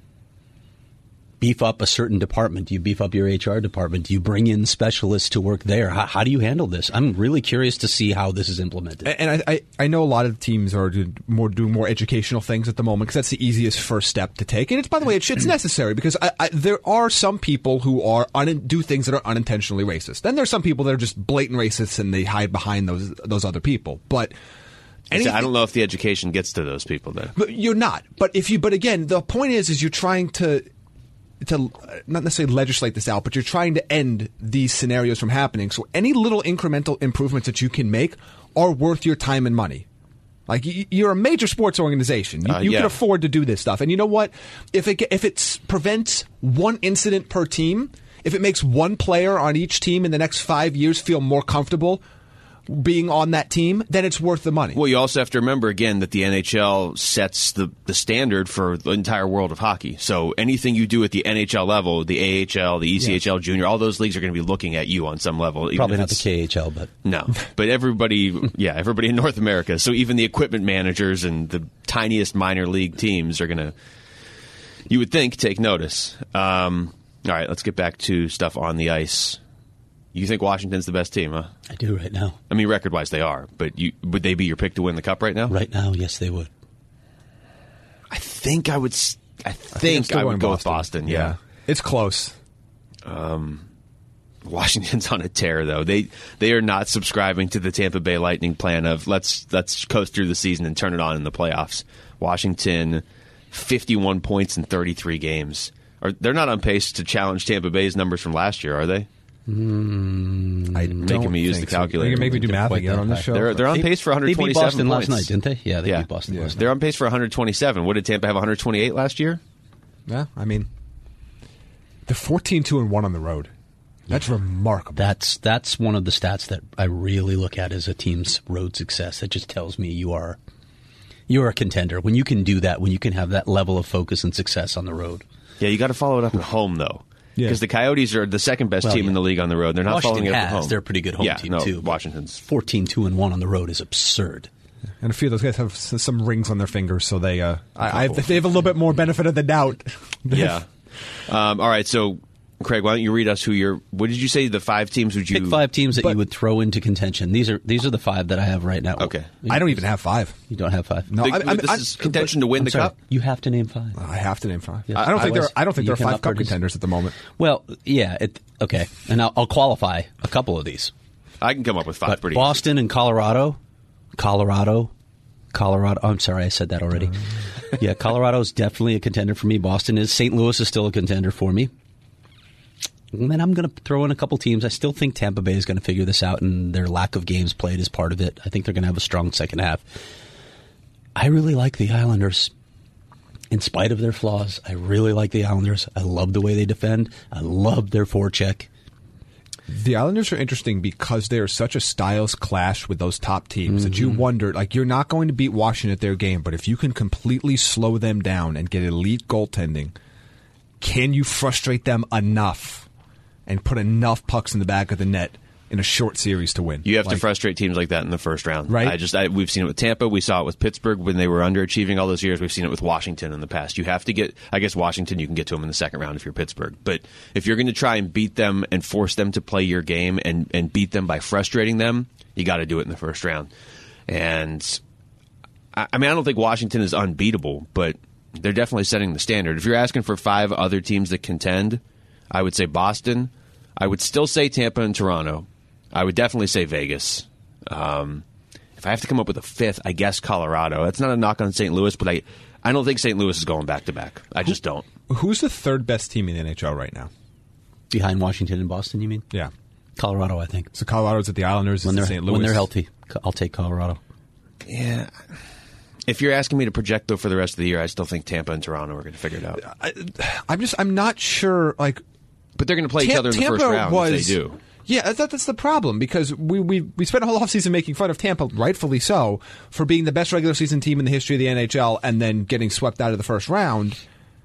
beef up a certain department? Do you beef up your H R department? Do you bring in specialists to work there? How, how do you handle this? I'm really curious to see how this is implemented. And I, I, I know a lot of teams are doing more, doing more educational things at the moment because that's the easiest first step to take. And it's, by the way, it's, it's necessary because I, I, there are some people who are un, do things that are unintentionally racist. Then there's some people that are just blatant racists and they hide behind those those other people. But anything, I don't know if the education gets to those people then. But you're not. But if you, but again, the point is, is you're trying to. to not necessarily legislate this out, but you're trying to end these scenarios from happening. So any little incremental improvements that you can make are worth your time and money. Like, you're a major sports organization. You, uh, you yeah. can afford to do this stuff. And you know what? If it if it prevents one incident per team, if it makes one player on each team in the next five years feel more comfortable being on that team, then it's worth the money. Well, you also have to remember, again, that the N H L sets the, the standard for the entire world of hockey. So anything you do at the N H L level, the A H L, the E C H L yeah. Junior, all those leagues are going to be looking at you on some level. Probably not the K H L, but... No. But everybody, yeah, everybody in North America. So even the equipment managers and the tiniest minor league teams are going to, you would think, take notice. Um, all right, let's get back to stuff on the ice. You think Washington's the best team, huh? I do right now. I mean, record-wise, they are. But you, would they be your pick to win the Cup right now? Right now, yes, they would. I think I would. I I think, think I would go Boston. with Boston. Yeah. yeah, it's close. Um, Washington's on a tear, though. They they are not subscribing to the Tampa Bay Lightning plan of let's let's coast through the season and turn it on in the playoffs. Washington, fifty-one points in thirty-three games. Are they're not on pace to challenge Tampa Bay's numbers from last year, are they? Mm, I making me use the calculator. So. You can make me do math again on this show. They're, they're on pace for one hundred twenty-seven They beat Boston points. last night, didn't they? Yeah, they yeah. beat Boston yeah. last night. They're on pace for one hundred twenty-seven. What did Tampa have, one hundred twenty-eight last year? Yeah, I mean, they're fourteen two and one on the road. That's yeah. remarkable. That's that's one of the stats that I really look at as a team's road success. That just tells me you are you are a contender when you can do that. When you can have that level of focus and success on the road. Yeah, you got to follow it up at home, though. Because yeah. the Coyotes are the second best well, team yeah. in the league on the road. They're not Washington following it up has. at home. They're a pretty good home yeah, team, no, too. Washington's fourteen two and one on the road is absurd. And a few of those guys have some rings on their fingers, so they uh, I, I, they have a little bit more benefit of the doubt. yeah. Um, all right, so, Craig, why don't you read us who you're... What did you say, the five teams would you... Pick five teams that but, you would throw into contention. These are these are the five that I have right now. Okay. I don't even have five. You don't have five? No, the, I, I, this I, is contention to win I'm the sorry, Cup? You have to name five. I have to name five. Yeah. I don't think I there. was, I don't think there are five Cup produce. contenders at the moment. Well, yeah. It, okay, and I'll, I'll qualify a couple of these. I can come up with five But pretty Boston easy. and Colorado, Colorado, Colorado. Oh, I'm sorry, I said that already. yeah, Colorado is definitely a contender for me. Boston is. Saint Louis is still a contender for me. And then I'm going to throw in a couple teams. I still think Tampa Bay is going to figure this out, and their lack of games played is part of it. I think they're going to have a strong second half. I really like the Islanders. in spite of their flaws, I really like the Islanders. I love the way they defend. I love their forecheck. The Islanders are interesting because they are such a styles clash with those top teams mm-hmm. that you wonder, like, you're not going to beat Washington at their game, but if you can completely slow them down and get elite goaltending, can you frustrate them enough and put enough pucks in the back of the net in a short series to win? You have like, to frustrate teams like that in the first round. Right. I just I, we've seen it with Tampa. We saw it with Pittsburgh when they were underachieving all those years. We've seen it with Washington in the past. You have to get, I guess Washington, you can get to them in the second round if you're Pittsburgh. But if you're going to try and beat them and force them to play your game and, and beat them by frustrating them, you got to do it in the first round. And I, I mean, I don't think Washington is unbeatable, but they're definitely setting the standard. If you're asking for five other teams that contend, I would say Boston. I would still say Tampa and Toronto. I would definitely say Vegas. Um, if I have to come up with a fifth, I guess Colorado. That's not a knock on Saint Louis, but I, I don't think Saint Louis is going back-to-back. I just don't. Who's the third best team in the N H L right now? Behind Washington and Boston, you mean? Yeah. Colorado, I think. So Colorado's at the Islanders, when it's they're, at Saint Louis. When they're healthy, I'll take Colorado. Yeah. If you're asking me to project, though, for the rest of the year, I still think Tampa and Toronto are going to figure it out. I, I'm just, I'm not sure, like... But they're going to play Tam- each other in the Tampa first round was, if they do. Yeah, that, that's the problem, because we, we we spent a whole offseason making fun of Tampa, rightfully so, for being the best regular season team in the history of the N H L and then getting swept out of the first round.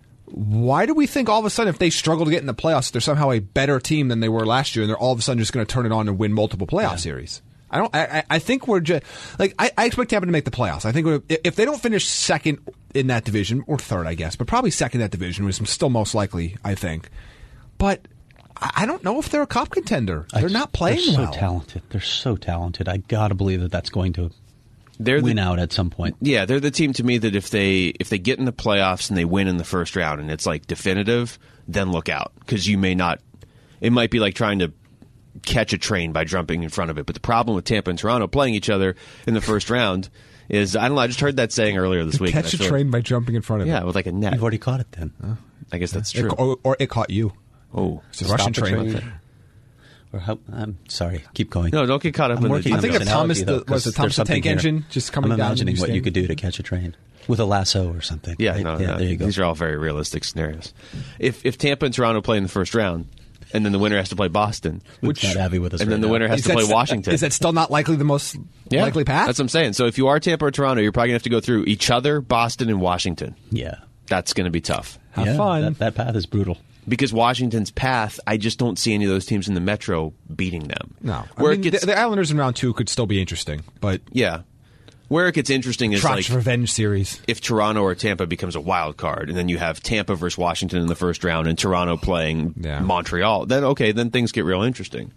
Why do we think all of a sudden if they struggle to get in the playoffs, they're somehow a better team than they were last year and they're all of a sudden just going to turn it on and win multiple playoff yeah. series? I don't. I, I think we're just like I, I expect Tampa to make the playoffs. I think we're, if they don't finish second in that division, or third, I guess, but probably second in that division, which is still most likely, I think. But I don't know if they're a cup contender. They're I, not playing they're so well. talented. They're so talented. I gotta believe that that's going to they're win the, out at some point. Yeah, they're the team to me that if they if they get in the playoffs and they win in the first round and it's like definitive, then look out because you may not. It might be like trying to catch a train by jumping in front of it. But the problem with Tampa and Toronto playing each other in the first round is I don't know. I just heard that saying earlier this week. Catch a train like, by jumping in front of yeah, it. Yeah, with like a net. You've already caught it then. Uh, I guess that's true. It, or, or it caught you. Oh, it's a Russian train. train. Or how, I'm sorry. Keep going. No, don't get caught up I'm in working the I think of Thomas, the, was the Thomas the Tank here. Engine just coming I'm down. imagining what you could do to catch a train with a lasso or something. Yeah, right? no, yeah no. There you go. These are all very realistic scenarios. If if Tampa and Toronto play in the first round, and then the winner has to play Boston, which not Avi with us, and right then the now. winner has is to play that, Washington. Is that still not likely the most yeah, likely path? That's what I'm saying. So if you are Tampa or Toronto, you're probably going to have to go through each other, Boston, and Washington. Yeah, that's going to be tough. Have yeah, fun. That, that path is brutal. Because Washington's path, I just don't see any of those teams in the Metro beating them. No. Where I mean, it gets, the, the Islanders in round two could still be interesting, but... Yeah. Where it gets interesting is Trot's like... revenge series. If Toronto or Tampa becomes a wild card, and then you have Tampa versus Washington in the first round, and Toronto playing yeah. Montreal, then okay, then things get real interesting.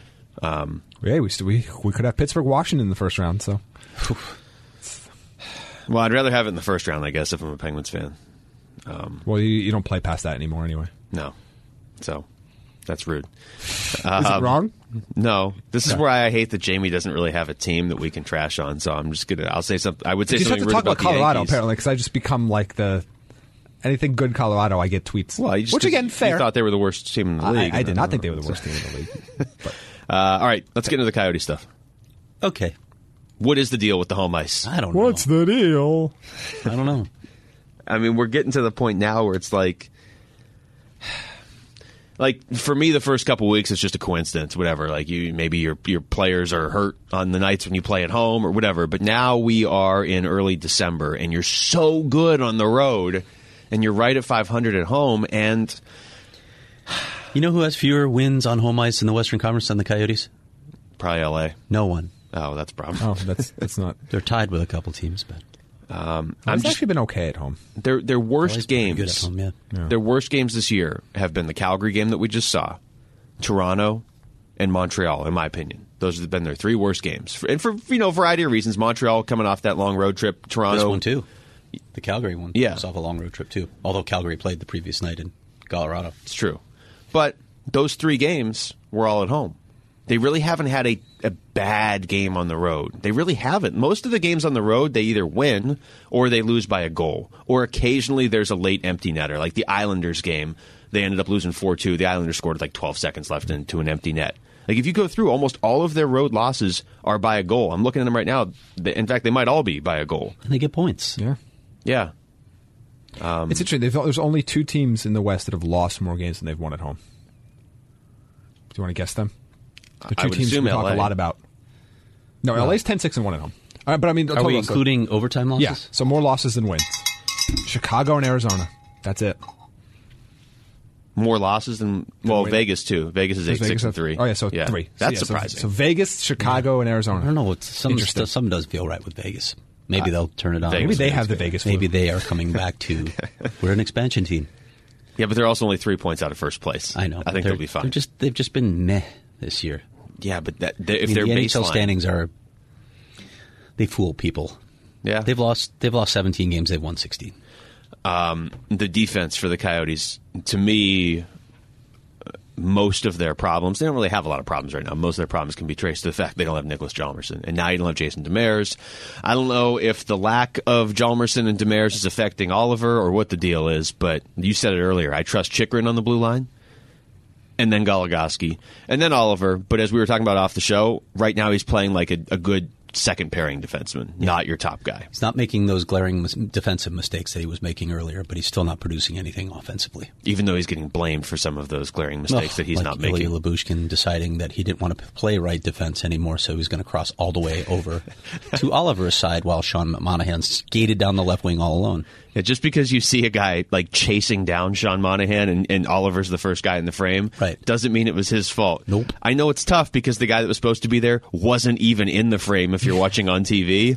Um, yeah, we, st- we we could have Pittsburgh, Washington in the first round, so... Well, I'd rather have it in the first round, I guess, if I'm a Penguins fan. Um, well, you, you don't play past that anymore anyway. No. So, that's rude. Um, Is it wrong? No. This is where I hate that Jamie doesn't really have a team that we can trash on, so I'm just going to, I'll say something, I would say you something just have to rude talk about, Colorado, Yankees. apparently, because I just become like the... Anything good Colorado, I get tweets. Well, you just, Which, again, fair. You thought they were the worst team in the league. I, I did not think they were the worst team in the league. But. Uh, all right, let's get into the Coyote stuff. Okay. What is the deal with the home ice? I don't know. What's the deal? I don't know. I mean, we're getting to the point now where it's like... Like, for me, the first couple weeks, it's just a coincidence, whatever. Like, you maybe your your players are hurt on the nights when you play at home or whatever. But now we are in early December, and you're so good on the road, and you're right at five hundred at home, and... You know who has fewer wins on home ice in the Western Conference than the Coyotes? Probably L A. No one. Oh, that's a problem. Oh, that's that's not... They're tied with a couple teams, but... Um, I've I'm just, actually been okay at home. Their their worst games. Good at home, yeah. Yeah. Their worst games this year have been the Calgary game that we just saw, Toronto, and Montreal. In my opinion, those have been their three worst games, and for you know a variety of reasons. Montreal coming off that long road trip, Toronto This one too, the Calgary one. Yeah, was off a long road trip too. Although Calgary played the previous night in Colorado. It's true, but those three games were all at home. They really haven't had a, a bad game on the road. They really haven't. Most of the games on the road, they either win or they lose by a goal. Or occasionally there's a late empty netter. Like the Islanders game, they ended up losing four two. The Islanders scored with like twelve seconds left into an empty net. Like if you go through, almost all of their road losses are by a goal. I'm looking at them right now. In fact, they might all be by a goal. And they get points. Yeah. Yeah. Um, it's interesting. They've, there's only two teams in the West that have lost more games than they've won at home. Do you want to guess them? The I two would teams we assume talk L A. a lot about. No, L A's ten six and one at home. All right, but I mean, Are we including overtime losses? Yeah, so more losses than wins. Chicago and Arizona. That's it. More losses than well, win. Vegas too. Vegas is eight Vegas six and have- three. Oh yeah, so three. So, That's yeah, so- surprising. So, Vegas, Chicago, and Arizona. I don't know. It's, some Interesting. st- some does feel right with Vegas. Maybe they'll turn it on. Vegas Maybe they fans have the feel- Vegas flu. Maybe they are coming back to. We're an expansion team. Yeah, but they're also only three points out of first place. I know. I but think they're- they'll be fine. They're just they've just been meh this year. yeah, but that, they, if I mean, their the N H L baseline, standings are they fool people. yeah, They've lost they've lost seventeen games. They've won sixteen. um, the defense for the Coyotes, to me, uh, most of their problems, they don't really have a lot of problems right now. Most of their problems can be traced to the fact they don't have Nicholas Hjalmarsson. And now you don't have Jason Demers. I don't know if the lack of Hjalmarsson and Demers is affecting Oliver or what the deal is, but you said it earlier. I trust Chychrun on the blue line, and then Goligoski, and then Oliver. But as we were talking about off the show, right now he's playing like a, a good second pairing defenseman, not your top guy. He's not making those glaring mis- defensive mistakes that he was making earlier, but he's still not producing anything offensively. Even though he's getting blamed for some of those glaring mistakes Ugh, that he's like not Ilya making. Lyubushkin deciding that he didn't want to p- play right defense anymore, so he was going to cross all the way over to Oliver's side while Sean Monahan skated down the left wing all alone. Yeah, just because you see a guy like chasing down Sean Monahan and, and Oliver's the first guy in the frame, Right. doesn't mean it was his fault. Nope. I know it's tough because the guy that was supposed to be there wasn't even in the frame if you're watching on T V.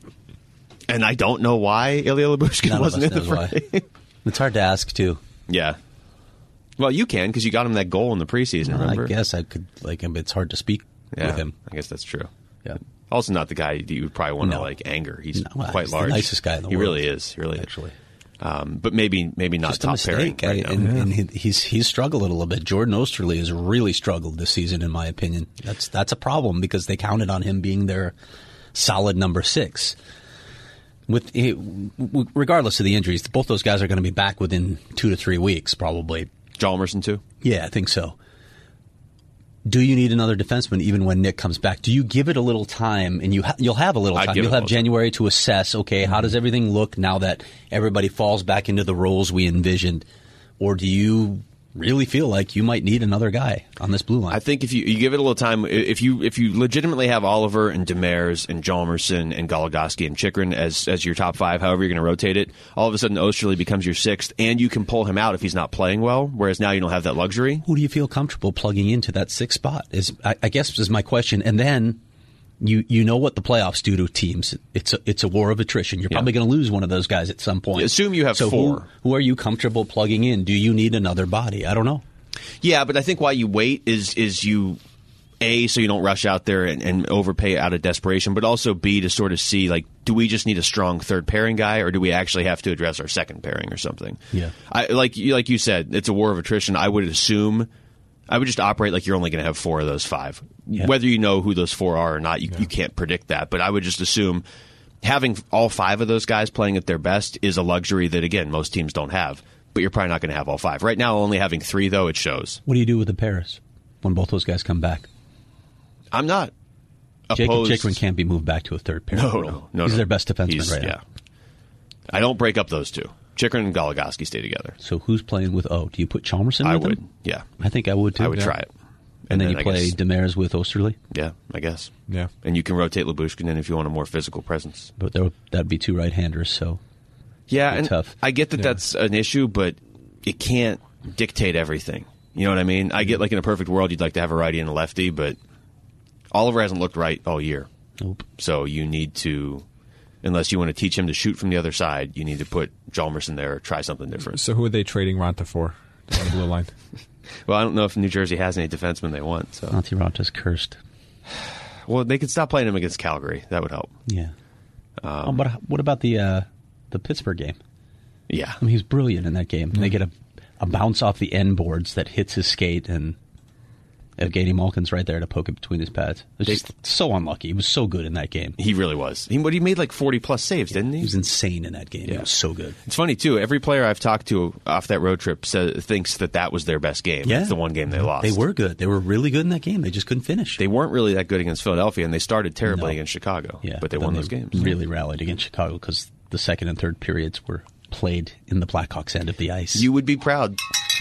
And I don't know why Ilya Lyubushkin None of wasn't us in the knows frame. why. It's hard to ask, too. Yeah. Well, you can because you got him that goal in the preseason, remember? I guess I could, like, it's hard to speak yeah, with him. I guess that's true. Yeah. Also not the guy that you would probably want to No. like anger. He's No, well, quite he's the large. nicest guy in the he world. really is. He really Actually. is. Um, but maybe maybe not Just a top mistake. pairing right I- now. and and he- he's he's struggled a little bit. Jordan Osterley has really struggled this season, in my opinion. That's that's a problem because they counted on him being their solid number six. With regardless of the injuries, both those guys are going to be back within two to three weeks, probably. Hjalmarsson too. Yeah, I think so. Do you need another defenseman even when Nick comes back? Do you give it a little time, and you ha- you'll have a little I'd time. give it You'll a have little time. January to assess. Okay, how does everything look now that everybody falls back into the roles we envisioned, or do you really feel like you might need another guy on this blue line? I think if you, you give it a little time, if you if you legitimately have Oliver and Demers and Hjalmarsson and Goligoski and Chychrun as as your top five, however you're going to rotate it, all of a sudden Osterley becomes your sixth, and you can pull him out if he's not playing well. Whereas now you don't have that luxury. Who do you feel comfortable plugging into that sixth spot? Is I, I guess is my question. And then you you know what the playoffs do to teams. It's a, it's a war of attrition. You're Yeah. probably going to lose one of those guys at some point. Assume you have so four. Who, who are you comfortable plugging in? Do you need another body? I don't know. Yeah, but I think why you wait is is you A, so you don't rush out there and, and overpay out of desperation, but also B, to sort of see, like, do we just need a strong third pairing guy, or do we actually have to address our second pairing or something? Yeah. I, like you like you said, it's a war of attrition. I would assume, I would just operate like you're only going to have four of those five. Yeah. Whether you know who those four are or not, you, you can't predict that. But I would just assume having all five of those guys playing at their best is a luxury that, again, most teams don't have. But you're probably not going to have all five. Right now, only having three, though, it shows. What do you do with the pairs when both those guys come back? I'm not Jacob opposed. Chychrun can't be moved back to a third pair. No, role. no, no. He's no. their best defenseman He's- right yeah. now. I don't break up those two. Chychrun and Goligoski stay together. So who's playing with O? Do you put Chalmerson I with would. him? Yeah. I think I would too. I would Yeah. try it. And, then, then you I play guess- Demers with Osterley. Yeah, I guess. Yeah. And you can rotate Lyubushkin in if you want a more physical presence. But there, that'd be two right-handers, so Yeah, Be and tough. I get that that's an issue, but it can't dictate everything. You know what I mean? I get, like, in a perfect world, you'd like to have a righty and a lefty, but Oliver hasn't looked right all year. nope. So you need to, unless you want to teach him to shoot from the other side, you need to put Hjalmarsson there or try something different. So who are they trading Ronta for on the blue line? Well, I don't know if New Jersey has any defensemen they want. So, Antti Ranta's cursed. well, they could stop playing him against Calgary. That would help. Yeah. Um, oh, but what about the uh, the Pittsburgh game? Yeah. I mean, he's brilliant in that game. They get a, a bounce off the end boards that hits his skate, and Evgeny Malkin's right there to poke it between his pads. It was just so unlucky. He was so good in that game. He really was. He, but he made like forty plus saves, didn't he? He was insane in that game. Yeah. It was so good. It's funny too. Every player I've talked to off that road trip says, thinks that that was their best game. Yeah. It's the one game they lost. They were good. They were really good in that game. They just couldn't finish. They weren't really that good against Philadelphia, and they started terribly No. against Chicago. yeah, but they then won those games. Really rallied against Chicago because the second and third periods were played in the Blackhawks end of the ice. You would be proud.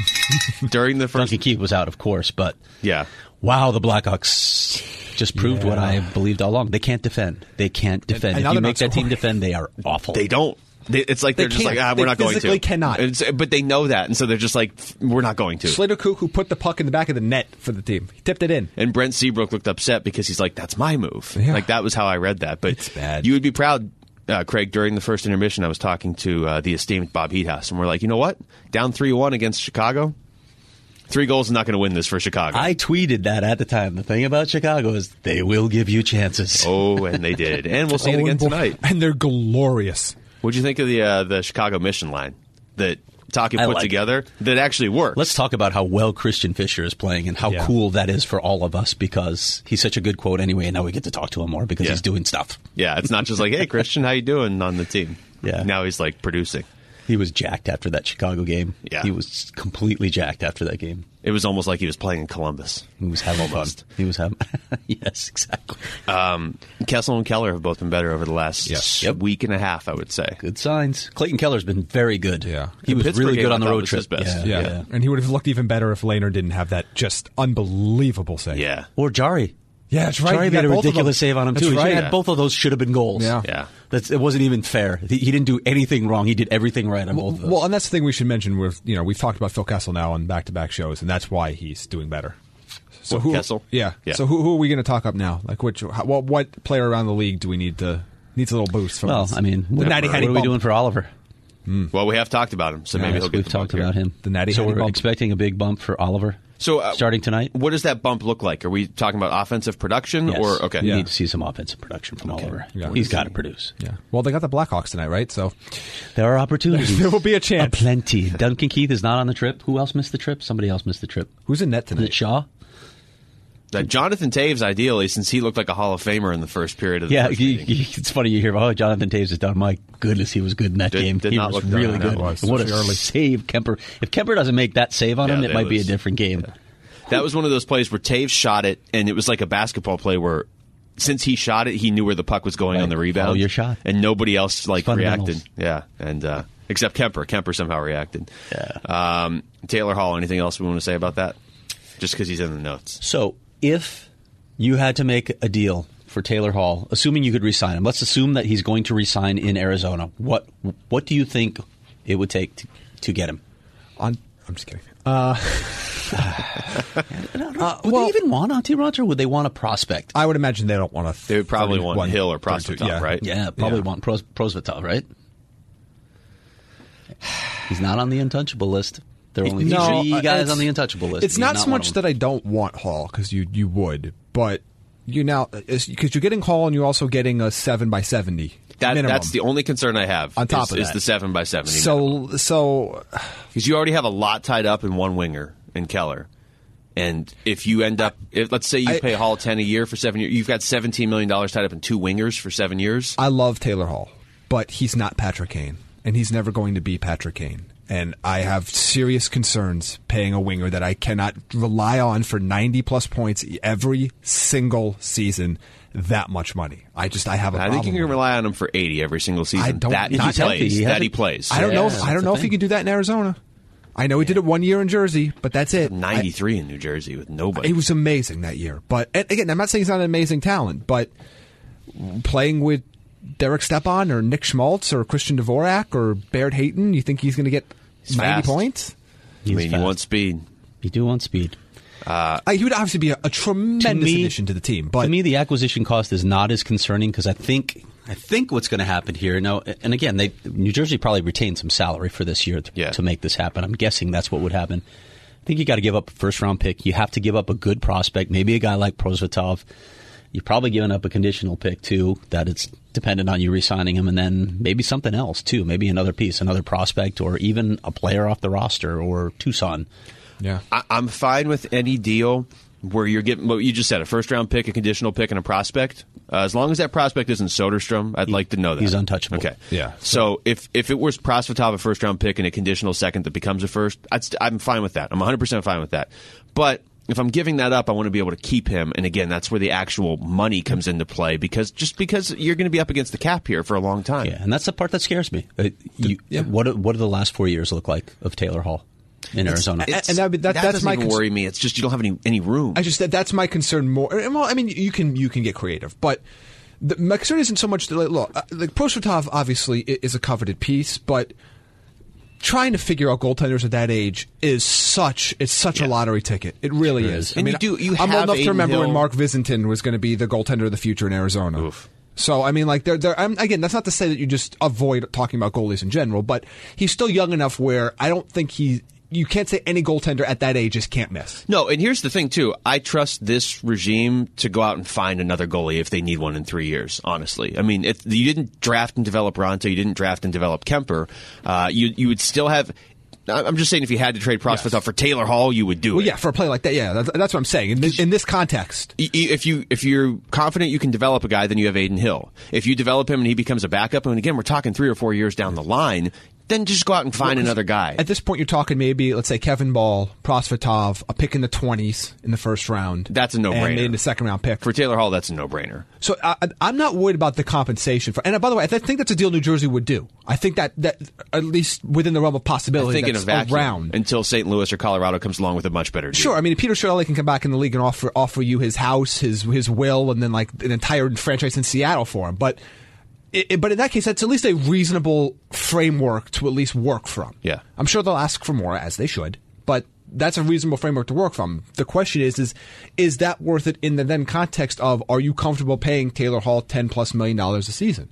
During the first... Duncan Keith was out, of course, but yeah. wow, the Blackhawks just proved Yeah. what I believed all along. They can't defend. They can't defend. And- and now if you they're make not that team scoring. defend, they are awful. They don't. They, it's like They they're just can't. like, ah, They we're not going to. physically cannot. It's- but they know that, and so they're just like, we're not going to. Slater Koch, who put the puck in the back of the net for the team. He tipped it in. And Brent Seabrook looked upset because he's like, that's my move. Yeah. Like, that was how I read that. But It's bad. You would be proud, uh, Craig, during the first intermission, I was talking to uh, the esteemed Bob Heathouse, and we're like, you know what? Down three one against Chicago? Three goals is not going to win this for Chicago. I tweeted that at the time. The thing about Chicago is they will give you chances. oh, and they did. And we'll see it Oh, again and boy- tonight. And they're glorious. What'd you think of the uh, the Chicago mission line that Taki I put like together that actually worked? Let's talk about how well Christian Fisher is playing and how Yeah. cool that is for all of us because he's such a good quote anyway, and now we get to talk to him more because Yeah. he's doing stuff. Yeah, it's not just like, hey, Christian, how you doing on the team? Yeah. Now he's like producing. He was jacked after that Chicago game. Yeah. He was completely jacked after that game. It was almost like he was playing in Columbus. He was having Almost. fun. He was having yes, exactly. Um, Kessel and Keller have both been better over the last Yes. Yep. week and a half, I would say. Good signs. Clayton Keller's been very good. Yeah. He The was Pittsburgh really game, good I on the thought, road was trip. his best. Yeah, Yeah. yeah. And he would have looked even better if Lehner didn't have that just unbelievable save. Yeah. Or Jari. Yeah, that's right. Jari He made got a both of ridiculous them. save on him That's too. He right. had both of those should have been goals. Yeah. Yeah. That's it wasn't even fair. He, he didn't do anything wrong. He did everything right on both of those. Well, and that's the thing we should mention. With you know, we've talked about Phil Kessel now on back-to-back shows, and that's why he's doing better. So What, who, Kessel? Yeah. Yeah. So who, who are we going to talk up now? Like which? How, what, what player around the league do we need to needs a little boost from? Well, this? I mean, the what, Natty what Hattie are we bump. doing for Oliver? Well, we have talked about him, so maybe Yes, he'll get we've the talked bump about here. him. The Natty so Hattie we're bump. expecting a big bump for Oliver. So uh, starting tonight. What does that bump look like? Are we talking about offensive production Yes. or okay? We Yeah. need to see some offensive production from Oliver. Yeah. He's got to produce. Yeah. Well, they got the Blackhawks tonight, right? So There are opportunities. there will be a chance. Plenty. Duncan Keith is not on the trip. Who else missed the trip? Somebody else missed the trip. Who's in net Is it tonight? Shaw? Uh, Jonathan Taves, ideally, since he looked like a Hall of Famer in the first period of the Yeah, first you, meeting. you, it's funny you hear, oh, Jonathan Taves is done. My goodness, he was good in that Did- game. did he not was look done. really That good. was, And what a especially early. save Kemper. If Kemper doesn't make that save on Yeah, him, that it might be a was- different game. That was one of those plays where Taves shot it, and it was like a basketball play where, since he shot it, he knew where the puck was going Right. on the rebound. Follow your shot. and nobody else like Fundamentals. reacted. Yeah, and uh, except Kemper. Kemper somehow reacted. Yeah. Um, Taylor Hall. Anything else we want to say about that? Just because he's in the notes. So if you had to make a deal for Taylor Hall, assuming you could re-sign him, let's assume that he's going to re-sign in Arizona. What what do you think it would take to, to get him? On, I'm just kidding. Uh, would well- they even want Auntie Roger? Would they want a prospect? I would imagine they don't want to. They would probably want Hill or Prosvetov, yeah. right? Yeah, probably Yeah. want Pros- Prosvetov, right? He's not on the untouchable list. There are only No, three uh, guys it's- on the untouchable list. It's He's not so one much of that them. I don't want Hall because you you would, but you now because you're getting Hall and you're also getting a seven by seventy. That, minimum. that's the only concern I have. On top is, of is that. the seven by seventy. So so because you already have a lot tied up in one winger in Keller, and if you end up, if, let's say you I- pay Hall ten a year for seven years, you've got seventeen million dollars tied up in two wingers for seven years. I love Taylor Hall, but he's not Patrick Kane, and he's never going to be Patrick Kane. And I have serious concerns paying a winger that I cannot rely on for ninety plus points every single season. That much money, I just I have a I problem. think you can with it. rely on him for eighty every single season. I don't- that he not healthy. plays. He that hasn't- he plays. I don't know. Yeah, If, I that's don't the know if he thing. can do that in Arizona. I know he did it one year in Jersey, but that's it. ninety-three in New Jersey with I, nobody. it was amazing that year. But and again, I'm not saying he's not an amazing talent, but playing with Derek Stepan or Nick Schmaltz or Christian Dvorak or Baird Hayton, you think he's going to get He's ninety fast. points? I He's mean, you fast. want speed. You do want speed. Uh, he would obviously be a, a tremendous me- addition to the team. But to me, the acquisition cost is not as concerning because I think I think what's going to happen here now, and again, they New Jersey probably retained some salary for this year to, Yeah. to make this happen. I'm guessing that's what would happen. I think you got to give up a first round pick. You have to give up a good prospect, maybe a guy like Prosvetov. You're probably giving up a conditional pick too. That it's dependent on you re-signing him, and then maybe something else too. Maybe another piece, another prospect, or even a player off the roster or Tucson. yeah, I, I'm fine with any deal where you're getting what you just said, a first round pick, a conditional pick, and a prospect. Uh, as long as that prospect isn't Soderstrom, I'd like to know that. he's untouchable. Okay. Yeah. So if, if it was Prosvetov, a first round pick, and a conditional second that becomes a first, I'd st- I'm fine with that. I'm one hundred percent fine with that. But if I'm giving that up, I want to be able to keep him. And again, that's where the actual money comes into play because just because you're going to be up against the cap here for a long time. Yeah, and that's the part that scares me. Uh, you, yeah. What do- what do the last four years look like of Taylor Hall in Arizona? It's, And that- that- that that's doesn't my even cons- worry me. It's just you don't have any any room. I just that that's my concern more. Well, I mean, you can you can get creative, but the, my concern isn't so much that like, look, uh, like Prosvetov obviously i- is a coveted piece, but trying to figure out goaltenders at that age is such it's such Yeah. a lottery ticket. It really Sure is. is. And you do- you I'm have old enough Aiden to remember when Hill- Mark Visentin was going to be the goaltender of the future in Arizona. Oof. So I mean, like, they're, they're, I'm, again, that's not to say that you just avoid talking about goalies in general, but he's still young enough where I don't think he. You can't say any goaltender at that age just can't miss. No, and here's the thing, too. I trust this regime to go out and find another goalie if they need one in three years, honestly. I mean, if you didn't draft and develop Ronto, you didn't draft and develop Kemper, uh, you, you would still have... I'm just saying if you had to trade Prosvetov Yes. for Taylor Hall, you would do Well, it. yeah, for a play like that, yeah, that's, that's what I'm saying. In this, in this context, Y- y- If you if you're confident you can develop a guy, then you have Aiden Hill. If you develop him and he becomes a backup, and again we're talking three or four years down the line, then just go out and find another guy. at this point, you're talking maybe, let's say, Kevin Ball, Prosvetov, a pick in the twenties in the first round. That's a no-brainer. And in the second round pick. For Taylor Hall, that's a no-brainer. So I, I'm not worried about the compensation for. And by the way, I th- think that's a deal New Jersey would do. I think that that at least within the realm of I possibility, think in a that's vacuum around. until Saint Louis or Colorado comes along with a much better deal. Sure, I mean, Peter Chiarelli can come back in the league and offer offer you his house, his his will, and then like an entire franchise in Seattle for him. But it, it- but in that case, that's at least a reasonable framework to at least work from. Yeah. I'm sure they'll ask for more, as they should, but that's a reasonable framework to work from. The question is, is is that worth it in the then context of are you comfortable paying Taylor Hall ten plus million dollars a season?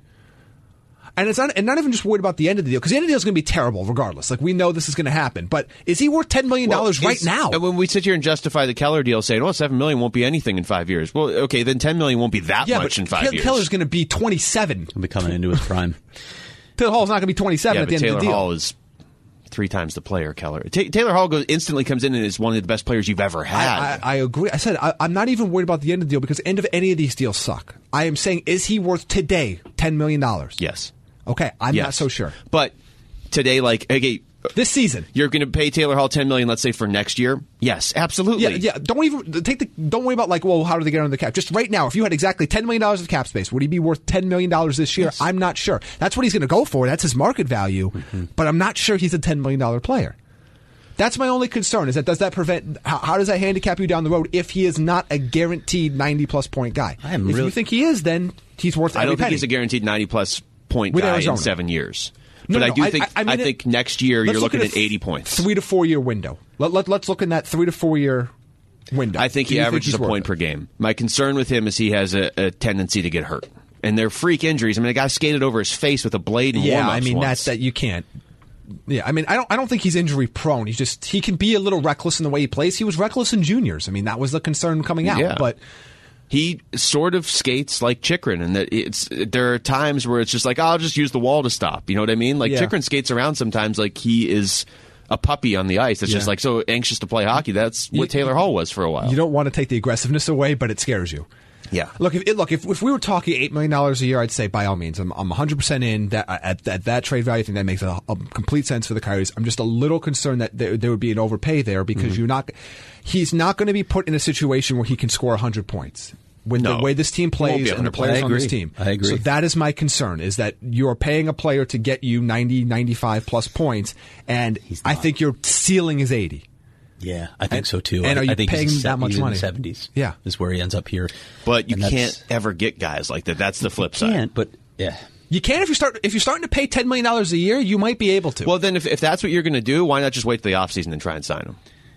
And it's not, and not even just worried about the end of the deal, because the end of the deal is going to be terrible regardless. Like, we know this is going to happen. But is he worth ten million dollars Well, right is- now? And when we sit here and justify the Keller deal, saying, "Well, seven million won't be anything in five years." Well, okay, then ten million won't be that yeah, much but in five Taylor years. Keller's going to be twenty-seven. He'll be coming into his prime. Taylor Hall's not going to be twenty-seven yeah, at the but end Taylor of the deal. Hall is three times the player Keller. Ta Taylor Hall goes instantly comes in and is one of the best players you've ever had. I, I, I agree. I said I, I'm not even worried about the end of the deal because the end of any of these deals suck. I am saying, is he worth today ten million dollars? yes, Okay, I'm yes. not so sure. But today, like, okay, This season. you're going to pay Taylor Hall ten million, let's say for next year. Yes, absolutely. Yeah, yeah. Don't even take the. Don't worry about like, well, how do they get under the cap? Just right now, if you had exactly ten million dollars of cap space, would he be worth ten million dollars this year? Yes. I'm not sure. That's what he's going to go for. That's his market value. Mm-hmm. But I'm not sure he's a ten million dollar player. That's my only concern. Is that does that prevent? How, how does that handicap you down the road if he is not a guaranteed ninety plus point guy? I am if really- you think he is, then he's worth. I every don't think penny. he's a guaranteed ninety plus point With guy Arizona. in seven years. No, but no, I do I- think I- I mean it- think next year Let's you're look looking at at a eighty points. Three to four year window. Let, let, let's look in that three to four year window. I think Do he you averages he's a worth point it? per game. My concern with him is he has a, a tendency to get hurt. And they're freak injuries. I mean, a guy skated over his face with a blade in Yeah, warm-ups I mean once. that's that you can't. Yeah, I mean, I don't. I don't think he's injury prone. He's just he can be a little reckless in the way he plays. He was reckless in juniors. I mean, that was the concern coming out. Yeah. But He sort of skates like Chikrin, and that it's there are times where it's just like, oh, I'll just use the wall to stop. You know what I mean? Like Yeah. Chikrin skates around sometimes like he is a puppy on the ice. It's Yeah. just like so anxious to play hockey. That's what You- Taylor Hall was for a while. you don't want to take the aggressiveness away, but it scares you. Yeah. Look, if look if, if we were talking eight million dollars a year, I'd say by all means, I'm I'm one hundred percent in that at, at that trade value. I think that makes a, a complete sense for the Coyotes. I'm just a little concerned that there, there would be an overpay there because Mm-hmm. you're not. He's not going to be put in a situation where he can score one hundred points. With No. the way this team He won't be plays able and the to play. players I on this agree. team. I agree. So that is my concern, is that you're paying a player to get you ninety, ninety-five plus points, and I not. think your ceiling is eighty. Yeah, I think And- so too. and I, are you I think paying he's him that much he's in money? the seventies. Yeah. is where he ends up here. But you And that's- can't ever get guys like that. That's the flip side. Can't, but yeah. You can if you start if you're starting to pay ten million dollars a year, you might be able to. Well, then if, if that's what you're going to do, why not just wait till the offseason and try and sign him?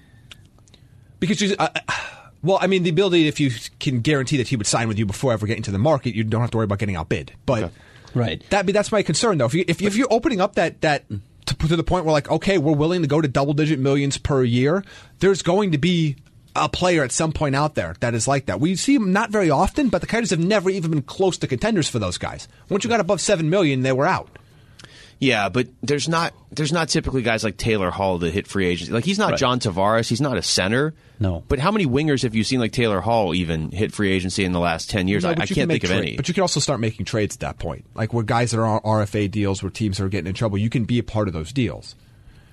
Because you, uh, well, I mean, the ability if you can guarantee that he would sign with you before ever getting to the market, you don't have to worry about getting outbid. But Okay. Right. that that's my concern though. If you if, if you're opening up that that to, to the point where like okay, we're willing to go to double digit millions per year, there's going to be a player at some point out there that is like that. We see them not very often, but the Coyotes have never even been close to contenders for those guys. Once you got above seven million, they were out. Yeah, but there's not there's not typically guys like Taylor Hall that hit free agency. Like he's not Right. John Tavares, he's not a center. No. But how many wingers have you seen like Taylor Hall even hit free agency in the last ten years? No, I, but I you can't can make think of tra- any. But you can also start making trades at that point, like where guys that are on R F A deals, where teams are getting in trouble. You can be a part of those deals.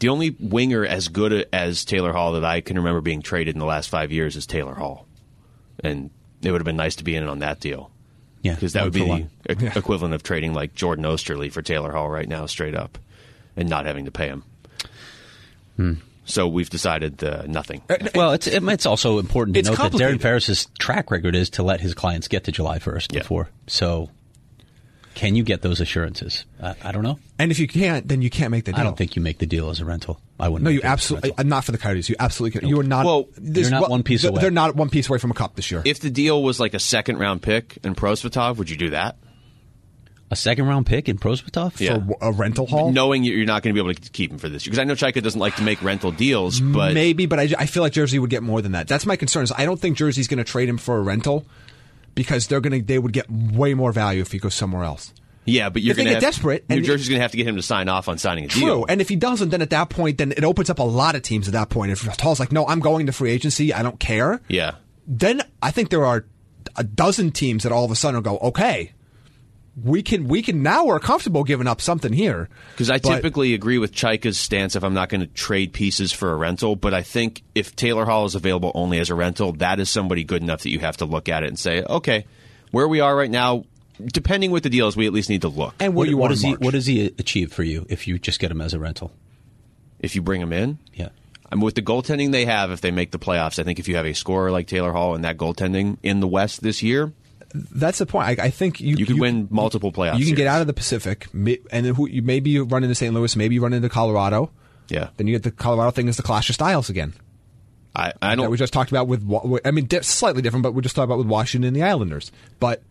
The only winger as good as Taylor Hall that I can remember being traded in the last five years is Taylor Hall. And it would have been nice to be in on that deal. Yeah, Because that would one be for the one. e- equivalent of trading like Jordan Osterley for Taylor Hall right now, straight up, and not having to pay him. Hmm. So we've decided uh, nothing. Well, it's it, it's also important to It's note that complicated. Darren Ferris's track record is to let his clients get to July first Yeah. before. So, can you get those assurances? I, I don't know. And if you can't, then you can't make the deal. I don't think you make the deal as a rental. I wouldn't. No, make you it as a absolutely rental. uh, not for the Coyotes. You absolutely can. You are not. Well, there's you're not one- one piece they're, away. They're not one piece away from a cup this year. If the deal was like a second round pick and Prosvetov, would you do that? A second round pick in Prosvetov? Yeah. For a rental haul, Knowing you're not going to be able to keep him for this year. Because I know Chaika doesn't like to make rental deals, but maybe, but I, I feel like Jersey would get more than that. That's my concern. Is I don't think Jersey's going to trade him for a rental because they're going to. They would get way more value if he goes somewhere else. yeah, but you're If they going to get have, desperate New and- Jersey's going to have to get him to sign off on signing a True, deal. and if he doesn't, then at that point, then it opens up a lot of teams. At that point, if Hall's like, "No, I'm going to free agency. I don't care." yeah. Then I think there are a dozen teams that all of a sudden will go, "Okay, we can, we can now we're comfortable giving up something here." Because I But- typically agree with Chaika's stance if I'm not going to trade pieces for a rental, but I think if Taylor Hall is available only as a rental, that is somebody good enough that you have to look at it and say, okay, where we are right now, depending what the deal is, we at least need to look. And what, What, do you what want does in he March? What does he achieve for you if you just get him as a rental? If you bring him in, Yeah. I mean, with the goaltending they have, if they make the playoffs, I think if you have a scorer like Taylor Hall and that goaltending in the West this year, That's the point. I, I think you you could win multiple playoffs. You can get series. out of the Pacific, ma- and then who, you, maybe you run into Saint Louis, maybe you run into Colorado. Yeah. Then you get the Colorado thing is the clash of styles again. I, I That don't. we just talked about with, Wa- I mean, di- slightly different, but we just talked about with Washington and the Islanders. But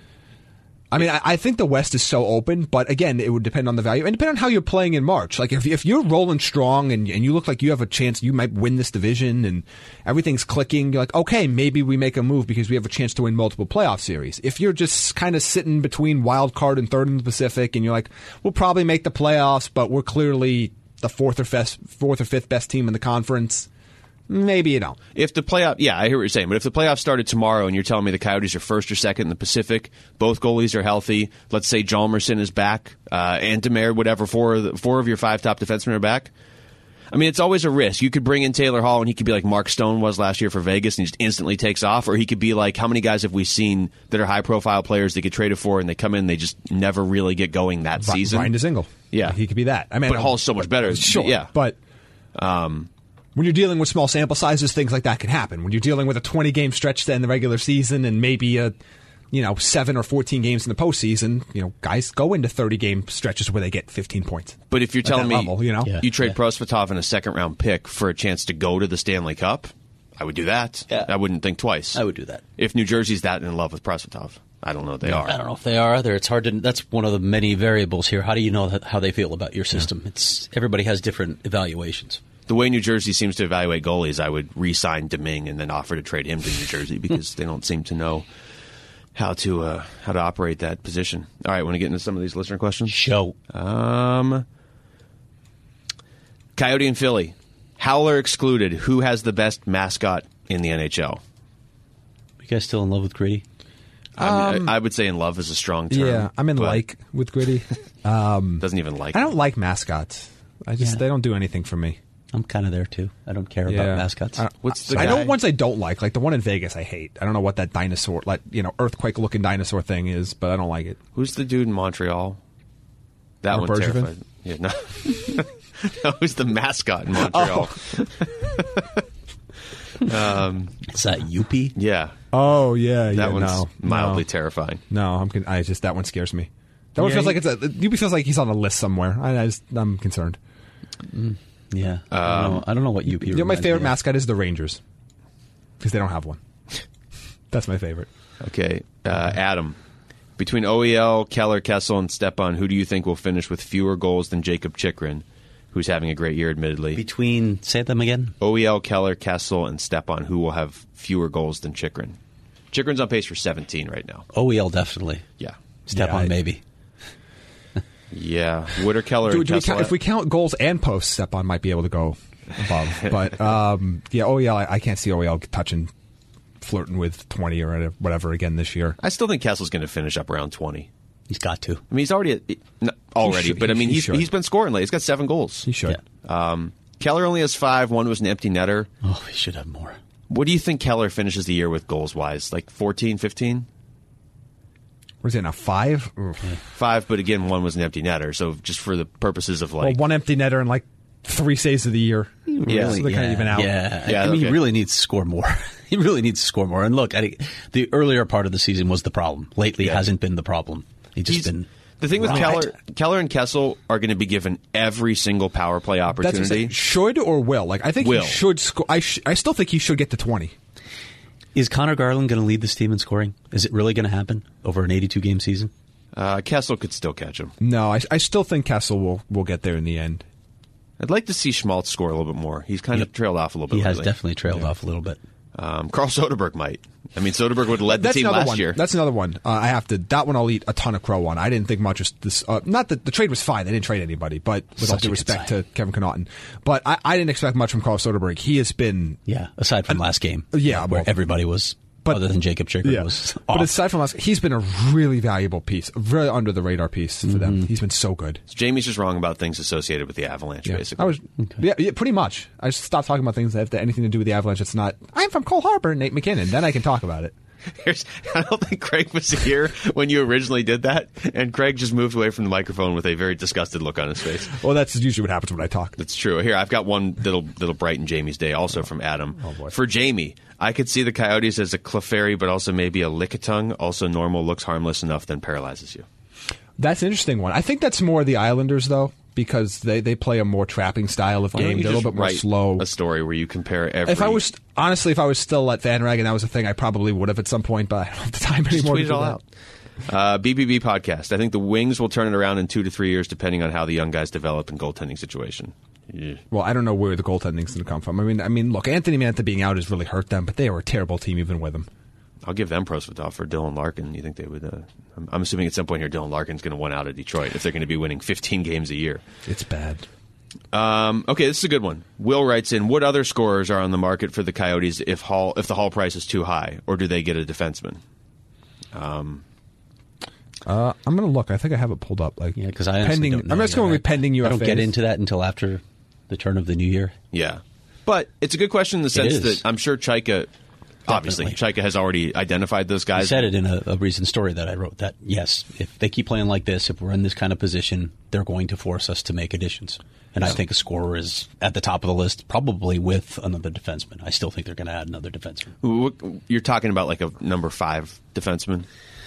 I mean, I, I think the West is so open, but again, it would depend on the value and depend on how you're playing in March. Like if if you're rolling strong and and you look like you have a chance, you might win this division and everything's clicking. You're like, okay, maybe we make a move because we have a chance to win multiple playoff series. If you're just kind of sitting between wild card and third in the Pacific, and you're like, we'll probably make the playoffs, but we're clearly the fourth or fifth, fourth or fifth best team in the conference. Maybe you don't. If the playoff, yeah, I hear what you're saying, but if the playoffs started tomorrow and you're telling me the Coyotes are first or second in the Pacific, both goalies are healthy, let's say Jalmerson is back, uh, and Demare, whatever, four of, the, four of your five top defensemen are back. I mean, it's always a risk. You could bring in Taylor Hall and he could be like Mark Stone was last year for Vegas and he just instantly takes off, or he could be like, how many guys have we seen that are high profile players they get traded for and they come in and they just never really get going that Ri- season? Ryan DeZingle. Yeah. he could be that. I mean, But Hall's so much better. Sure, Yeah. but um, when you're dealing with small sample sizes, things like that can happen. When you're dealing with a twenty game stretch to end the regular season and maybe a you know seven or fourteen games in the postseason, you know, guys go into thirty game stretches where they get fifteen points. But if you're At telling that me level, you know? Yeah. you trade Yeah. Prosvetov and a second round pick for a chance to go to the Stanley Cup, I would do that. Yeah. I wouldn't think twice. I would do that. If New Jersey's that in love with Prosvetov. I don't know if they are. I don't know if they are either. It's hard to. That's one of the many variables here. How do you know that, how they feel about your system? It's everybody has different evaluations. The way New Jersey seems to evaluate goalies, I would re-sign Deming and then offer to trade him to New Jersey because they don't seem to know how to uh, how to operate that position. All right, want to get into some of these listener questions? Show. Um, Coyote and Philly. Howler excluded. Who has the best mascot in the N H L? You guys still in love with Gritty? I, mean, I, I would say in love is a strong term. Yeah, I'm in but like with Gritty. Doesn't even like I it. don't like mascots. I just Yeah. they don't do anything for me. I'm kind of there too. I don't care Yeah. about mascots. I, What's the I guy? know ones I don't like, like the one in Vegas. I hate. I don't know what that dinosaur, like you know, earthquake looking dinosaur thing is, but I don't like it. Who's the dude in Montreal? That Mark one Bergevin? terrified. Yeah, no. no, who's the mascot in Montreal? um, Is that Youpie? yeah, Oh yeah, that yeah. one's no, mildly no. terrifying. No, I'm. Con- I just that one scares me. That one Yeah, feels he- like it's a. Yubi feels like he's on a list somewhere. I, I just, I'm concerned. Yeah. I, don't know, I don't know what Youpie. You know, my reminds favorite me of. mascot is the Rangers because they don't have one. That's my favorite. Okay, uh, Adam. Between O E L, Keller, Kessel, and Stepan, who do you think will finish with fewer goals than Jacob Chikrin, who's having a great year, admittedly? Between say them again. O E L, Keller, Kessel, and Stepan, who will have fewer goals than Chikrin? Chikrin's on pace for seventeen right now. O E L definitely. Yeah. Step Yeah, on I- maybe. Yeah. Wood Keller Do, and do we Kessel. count, if we count goals and posts, Stepan might be able to go above. But um, yeah, O E L, I, I can't see O E L touching, flirting with twenty or whatever again this year. I still think Kessel's going to finish up around twenty. He's got to. I mean, he's already at, not already, should- but I he- mean, he he's should. he's been scoring lately. He's got seven goals. He should. Yeah. Um, Keller only has five. One was an empty netter. Oh, he should have more. What do you think Keller finishes the year with goals-wise? Like fourteen, fifteen? Where's it now? Five? Oof. Five, but again, one was an empty netter. So just for the purposes of Well, like... one empty netter and like three saves of the year. Yeah. So they're kind of even out. Yeah, Yeah, I mean, okay. he really needs to score more. He really needs to score more. And look, I, the earlier part of the season was the problem. Lately, Yeah. hasn't been the problem. He's just He's- been. The thing with right. Keller, Keller and Kessel are going to be given every single power play That's what I'm opportunity. saying. Should or will? Like I think Will. he should score. I sh- I still think he should get to twenty. Is Connor Garland going to lead this team in scoring? Is it really going to happen over an eighty-two game season? Uh, Kessel could still catch him. No, I, I still think Kessel will will get there in the end. I'd like to see Schmaltz score a little bit more. He's kind Yep. of trailed off a little bit He has lately. definitely trailed off a little bit. Um, Carl Soderberg might. I mean, Soderberg would have led the That's team another last one. year. That's another one. Uh, I have to. That one I'll eat a ton of crow on. I didn't think much of this. Uh, not that the trade was fine. They didn't trade anybody, but with all Such a due good respect sign. to Kevin Connaughton, but I, I didn't expect much from Carl Soderberg. He has been. Yeah, aside from last game. yeah, where well- everybody was, But- other than Jacob Chikrin, was off. But aside from us, he's been a really valuable piece, a very under the radar piece for them. He's been so good. So Jamie's just wrong about things associated with the Avalanche, Yeah. basically. I was, yeah, yeah, pretty much. I just stopped talking about things that have anything to do with the Avalanche. It's not. I'm from Cole Harbour, Nate McKinnon. Then I can talk about it. Here's, I don't think Craig was here when you originally did that, and Craig just moved away from the microphone with a very disgusted look on his face. Well, that's usually what happens when I talk. That's true. Here, I've got one that'll that'll brighten Jamie's day, also from Adam. Oh, boy. For Jamie, I could see the Coyotes as a Clefairy, but also maybe a Lickitung. Also normal, looks harmless enough, then paralyzes you. That's an interesting one. I think that's more the Islanders, though, because they, they play a more trapping style of Why don't game. you They're a just little bit more write slow. a story where you compare every... If I was honestly, if I was still at Van Rag and that was a thing, I probably would have at some point, but I don't have the time Just anymore tweet to it do all that. out. Uh, B B B podcast. I think the Wings will turn it around in two to three years, depending on how the young guys develop in goaltending situation. Yeah. Well, I don't know where the goaltending's going to come from. I mean, I mean, look, Anthony Mantha being out has really hurt them, but they were a terrible team even with him. I'll give them Prosvetov for Dylan Larkin. You think they would? Uh, I'm, I'm assuming at some point here, Dylan Larkin's going to win out of Detroit if they're going to be winning fifteen games a year. It's bad. Um, okay, this is a good one. Will writes in: what other scorers are on the market for the Coyotes if Hall if the Hall price is too high, or do they get a defenseman? Um, Uh, I'm going to look. I think I have it pulled up. Like, Yeah, because I honestly pending. don't know I'm just yet. going I- with pending U F I As. don't get into that until after the turn of the new year. yeah, but it's a good question in the sense is. that I'm sure Chaika, obviously, Definitely. Chaika has already identified those I guys. said it in a, a recent story that I wrote that, yes, if they keep playing like this, if we're in this kind of position, they're going to force us to make additions. And I think a scorer is at the top of the list, probably with another defenseman. I still think they're going to add another defenseman. Wh- You're talking about like a number five defenseman.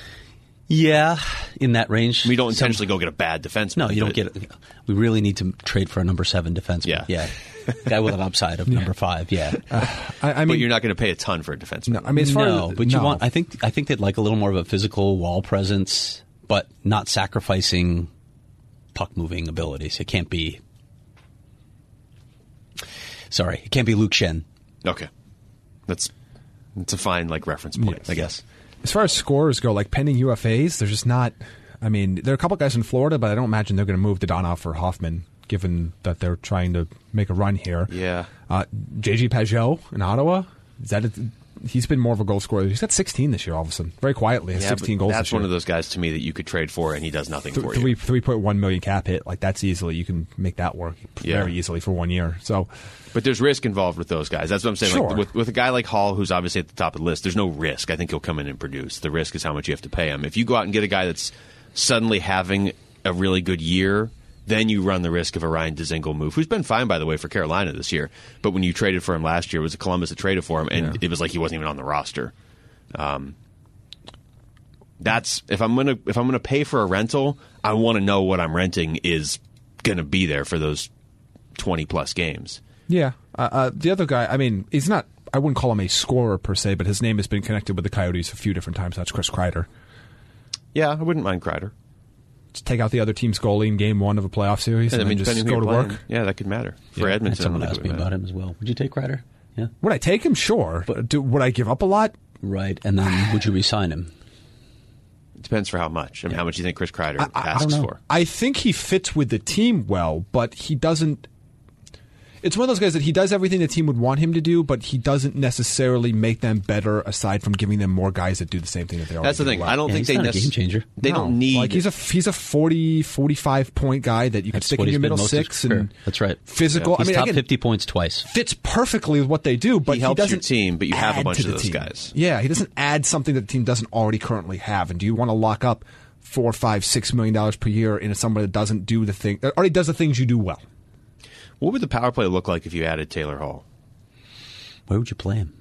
Yeah, in that range. We don't Some- intentionally go get a bad defenseman. No, you don't but- get it. We really need to trade for a number seven defenseman. Yeah. Yeah. Guy with an upside of number five. Yeah. I, I mean, but you're not going to pay a ton for a defenseman. no, I mean, as far no, as but you no. want. I think. I think they'd like a little more of a physical wall presence, but not sacrificing puck moving abilities. It can't be. Sorry, it can't be Luke Shen. Okay, that's that's a fine like reference point, Yes. I guess. As far as scorers go, like pending U F As, they're just not. I mean, there are a couple guys in Florida, but I don't imagine they're going to move Dodonov or Hoffman, given that they're trying to make a run here. Yeah. Uh, J G Pajot in Ottawa, is that? A, he's been more of a goal scorer. He's got sixteen this year, all of a sudden, very quietly. Has Yeah, sixteen but goals. That's this year. one of those guys to me that you could trade for, and he does nothing Th- for three you. three point one million cap hit. Like that's easily you can make that work Yeah. very easily for one year. So But there's risk involved with those guys. That's what I'm saying. Sure. Like, with, with a guy like Hall, who's obviously at the top of the list, there's no risk. I think he'll come in and produce. The risk is how much you have to pay him. If you go out and get a guy that's suddenly having a really good year, then you run the risk of a Ryan Dzingel move, who's been fine, by the way, for Carolina this year. But when you traded for him last year, it was Columbus that traded for him, and Yeah. it was like he wasn't even on the roster. Um, that's if I'm gonna if I'm gonna pay for a rental, I want to know what I'm renting is gonna be there for those twenty plus games. yeah, uh, uh, the other guy. I mean, he's not. I wouldn't call him a scorer per se, but his name has been connected with the Coyotes a few different times. That's Chris Kreider. Yeah, I wouldn't mind Kreider. Just take out the other team's goalie in game one of a playoff series, and, I mean, then just depending go who to you're work. playing, yeah, that could matter for Yeah. Edmonton. Someone I think asked it me would about matter. him as well. Would you take Ryder? Yeah. Would I take him? Sure. But do, would I give up a lot? Right. And then would you re-sign him? It depends for how much. I mean, how much do you think Chris Kreider I, I asks don't know. for? I think he fits with the team well, but he doesn't. it's one of those guys that he does everything the team would want him to do, but he doesn't necessarily make them better aside from giving them more guys that do the same thing that they already That's the do thing. well. I don't Yeah, think he's they not a necess- game changer. They No. don't need. Like he's a he's a forty, forty-five point guy that you can That's stick what in he's your been middle most of his six career. and That's right. physical. He's I mean, top again, fifty points twice. fits perfectly with what they do, but He he, helps your doesn't team, but you have a add bunch to of the those team. guys. Yeah, he doesn't add something that the team doesn't already currently have. And do you want to lock up four, five, six million dollars per year into somebody that doesn't do the thing that already does the things you do well? What would the power play look like if you added Taylor Hall? Where would you play him?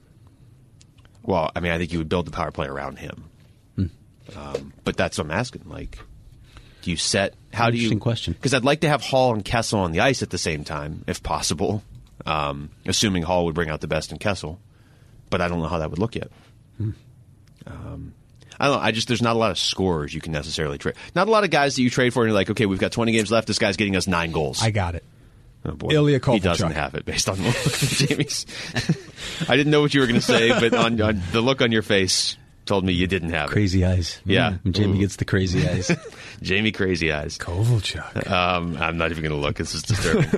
Well, I mean, I think you would build the power play around him. Hmm. Um, but that's what I'm asking. Like, do you set? How do you? Interesting question. Because I'd like to have Hall and Kessel on the ice at the same time, if possible. Um, assuming Hall would bring out the best in Kessel, but I don't know how that would look yet. Hmm. Um, I don't know. I just there's not a lot of scorers you can necessarily trade. Not a lot of guys that you trade for, and you're like, okay, we've got twenty games left. This guy's getting us nine goals. I got it. Oh boy. Ilya He doesn't Kovalchuk. have it based on the look of Jamie's. I didn't know what you were going to say, but on, on the look on your face told me you didn't have Crazy eyes. Yeah. Mm. Jamie Ooh. gets the crazy eyes. it. Jamie Crazy Eyes. Kovalchuk. Um, I'm not even going to look. This is disturbing.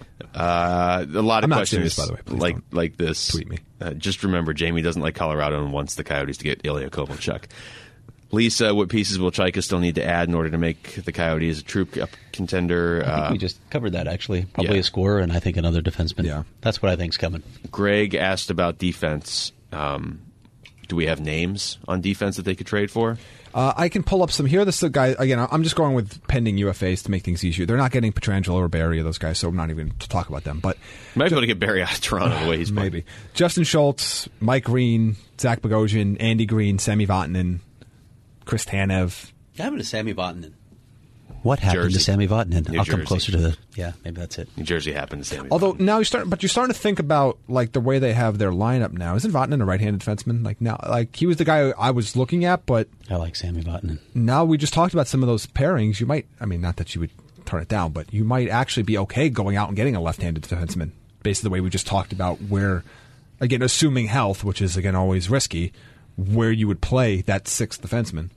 uh, a lot of I'm not questions serious, by the way. Please like don't like this. tweet me. Uh, just remember, Jamie doesn't like Colorado and wants the Coyotes to get Ilya Kovalchuk. Lisa, what pieces will Chaika still need to add in order to make the Coyotes a true cup contender? I think Uh, we just covered that, actually. Probably yeah. a scorer and I think another defenseman. Yeah. That's what I think's coming. Greg asked about defense. Um, do we have names on defense that they could trade for? Uh, I can pull up some here. This is the guy again. I'm just going with pending U F As to make things easier. They're not getting Pietrangelo or Barry, those guys, so I'm not even going to talk about them. But Might be able to get Barry out of Toronto the way he's playing. maybe Justin Schultz, Mike Green, Zach Bogosian, Andy Green, Sami Vatanen, Chris Tanev. What happened to Sami Vatanen? What happened Jersey. to Sami Vatanen? New I'll come Jersey. closer to the... Yeah, maybe that's it. New Jersey happened to Sammy. Although Vatanen. now you start, but you're starting to think about like the way they have their lineup now. Isn't Vatanen a right-handed defenseman? Like now, like he was the guy I was looking at, but I like Sami Vatanen. now we just talked about some of those pairings. You might, I mean, not that you would turn it down, but you might actually be okay going out and getting a left-handed defenseman based on the way we just talked about where, again, assuming health, which is again always risky, where you would play that sixth defenseman.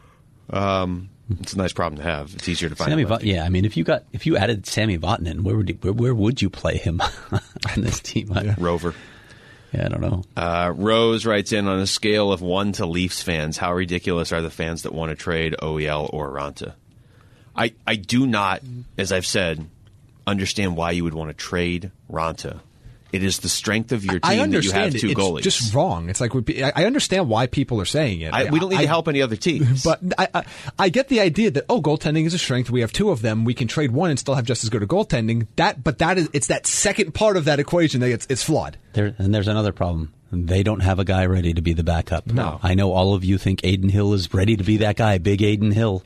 Um, it's a nice problem to have. It's easier to find. Sammy a lefty. Va- yeah, I mean, if you got if you added Sami Vatanen, where would you, where, where would you play him on this team? I, Rover. yeah, I don't know. Uh, Rose writes in, on a scale of one to Leafs fans, how ridiculous are the fans that want to trade O E L or Ranta? I, I do not, as I've said, understand why you would want to trade Ranta. It is the strength of your I team that you understand have it. two It's goalies. just wrong. It's like I I understand why people are saying it. I, we don't need I- to help any other teams. But I, I, I get the idea that oh, goaltending is a strength. We have two of them. We can trade one and still have just as good a goaltending. That, but that is it's that second part of that equation that it's, it's flawed. There, and there's another problem. They don't have a guy ready to be the backup. No. I know all of you think Aiden Hill is ready to be that guy, Big Aiden Hill.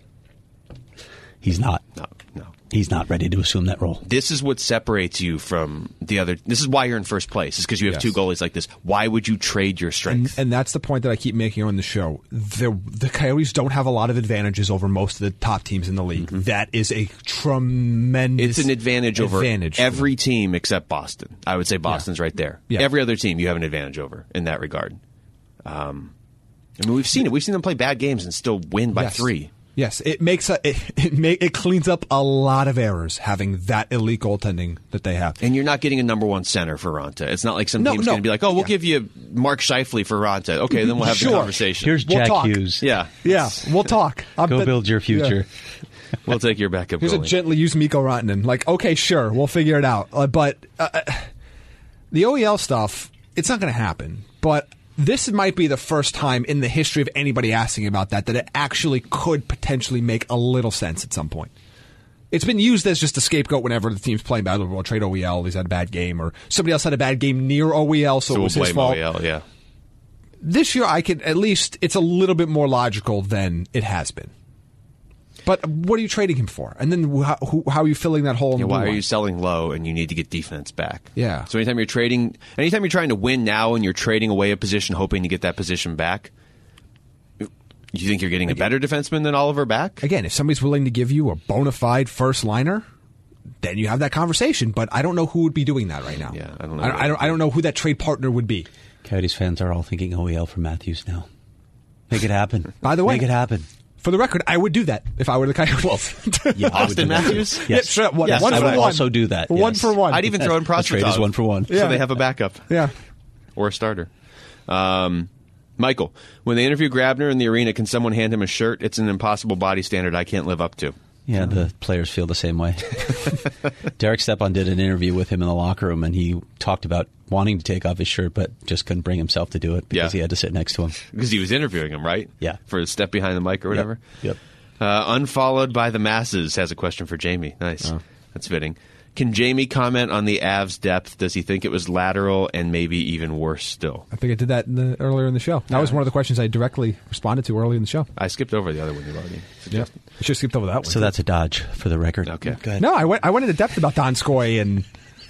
He's not. no, no. He's not ready to assume that role. This is what separates you from the other. This is why you're in first place. Is because you have Yes. two goalies like this. Why would you trade your And, strength? and that's the point that I keep making on the show. The the Coyotes don't have a lot of advantages over most of the top teams in the league. That is a tremendous. It's an advantage over advantage for every team except Boston. I would say Boston's right there. Yeah. Every other team you have an advantage over in that regard. Um, I mean, we've seen it. We've seen them play bad games and still win by Yes. three. Yes, it makes a, it it, make, it cleans up a lot of errors having that elite goaltending that they have. And you're not getting a number one center for Ranta. It's not like some No, team's no. going to be like, oh, we'll Yeah. give you Mark Scheifele for Ranta. Okay, then we'll have Sure. the conversation. Here's We'll Jack talk. Hughes. yeah. Yeah, we'll talk. I'm Go bet- build your future. Yeah. We'll take your backup Here's a goalie. gently used Mikko Rantanen. Like, okay, sure, we'll figure it out. Uh, but uh, the O E L stuff, it's not going to happen. But this might be the first time in the history of anybody asking about that that it actually could potentially make a little sense at some point. It's been used as just a scapegoat whenever the team's playing bad. We'll trade O E L. He's had a bad game, or somebody else had a bad game near O E L, so, so it we'll was his blame fault. O E L, yeah. This year, I can at least it's a little bit more logical than it has been. But what are you trading him for? And then wh- who, how are you filling that hole in Yeah, the why blue are line? you selling low and you need to get defense back? Yeah. So anytime you're trading, anytime you're trying to win now and you're trading away a position hoping to get that position back, you think you're getting a better defenseman than Oliver back? Again, if somebody's willing to give you a bona fide first liner, then you have that conversation. But I don't know who would be doing that right now. Yeah, I don't know. I, I don't. I don't know who that trade partner would be. Coyotes fans are all thinking O E L for Matthews now. Make it happen. By the way- Make it happen. For the record, I would do that if I were the Coyotes. Well, yeah, I would do Austin that. Matthews? Yes. Yeah, sure, one, Yes, one I for would one. also do that. One yes. for one. I'd even throw in The trade is Prosvetov. one for one. So Yeah. they have a backup. Yeah. Or a starter. Um, Michael, when they interview Grabner in the arena, can someone hand him a shirt? It's an impossible body standard I can't live up to. Yeah, the players feel the same way. Derek Stepan did an interview with him in the locker room, and he talked about wanting to take off his shirt, but just couldn't bring himself to do it because Yeah. he had to sit next to him. Because he was interviewing him, right? Yeah. For a step behind the mic or whatever. Yep. Uh, Unfollowed by the Masses has a question for Jamie. Nice. Oh. That's fitting. Can Jamie comment on the Avs' depth? Does he think it was lateral and maybe even worse still? I think I did that in the, earlier in the show. That was one of the questions I directly responded to early in the show. I skipped over the other one you've already suggested. I should have skipped over that one. So that's a dodge for the record. Okay. Go ahead. No, I went, I went into depth about Donskoy and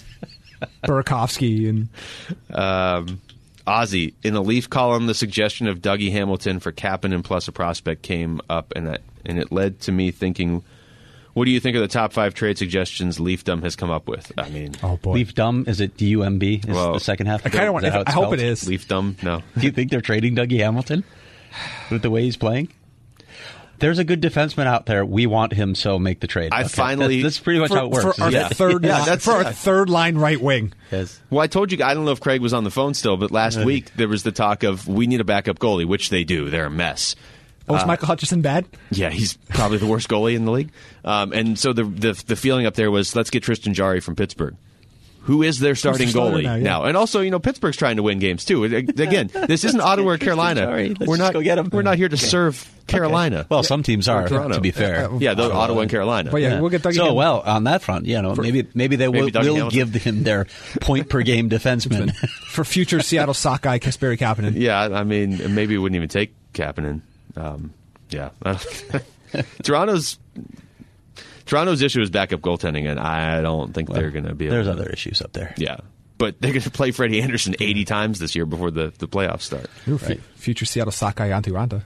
Burakovsky and Um, Ozzy, in a Leaf column, the suggestion of Dougie Hamilton for Kapanen plus a prospect came up, and that, and it led to me thinking, what do you think of the top five trade suggestions Leafdom has come up with? I mean, oh boy, Leaf dumb, is it D U M B? Is Well, the second half? I kind of Is want. that how I it's hope spelled? it is. Leafdom? No. Do you think they're trading Dougie Hamilton with the way he's playing? There's a good defenseman out there. We want him, so make the trade. I finally- That's, that's pretty much for, how it works. for our isn't it? third, Yeah, line, that's- for our yeah. third line right wing. Yes. Well, I told you, I don't know if Craig was on the phone still, but last week there was the talk of we need a backup goalie, which they do. They're a mess. Oh, is Michael Hutchison bad? Yeah, he's probably the worst goalie in the league. Um, and so the, the the feeling up there was, let's get Tristan Jarry from Pittsburgh, who is their starting starter goalie now, now, yeah. And also, you know, Pittsburgh's trying to win games too. Again, this isn't Ottawa or Carolina. Jarry. Let's We're just not go get him. We're not here to serve Carolina. Well, some teams are, Toronto. to be fair. Yeah, the Ottawa and Carolina. But yeah, we'll get Dougie So, Hamilton. well, on that front, you know, maybe maybe they will, maybe Dougie will Hamilton. give him their point per game defenseman. For future Seattle Sockeye, Kasperi Kapanen. Yeah, I mean, maybe it wouldn't even take Kapanen. Um, yeah, Toronto's Toronto's issue is backup goaltending, and I don't think they're going to be. Able There's to, other issues up there. Yeah, but they're going to play Freddie Anderson eighty times this year before the, the playoffs start. Ooh, f- Future Seattle Sockeye Antti Ranta.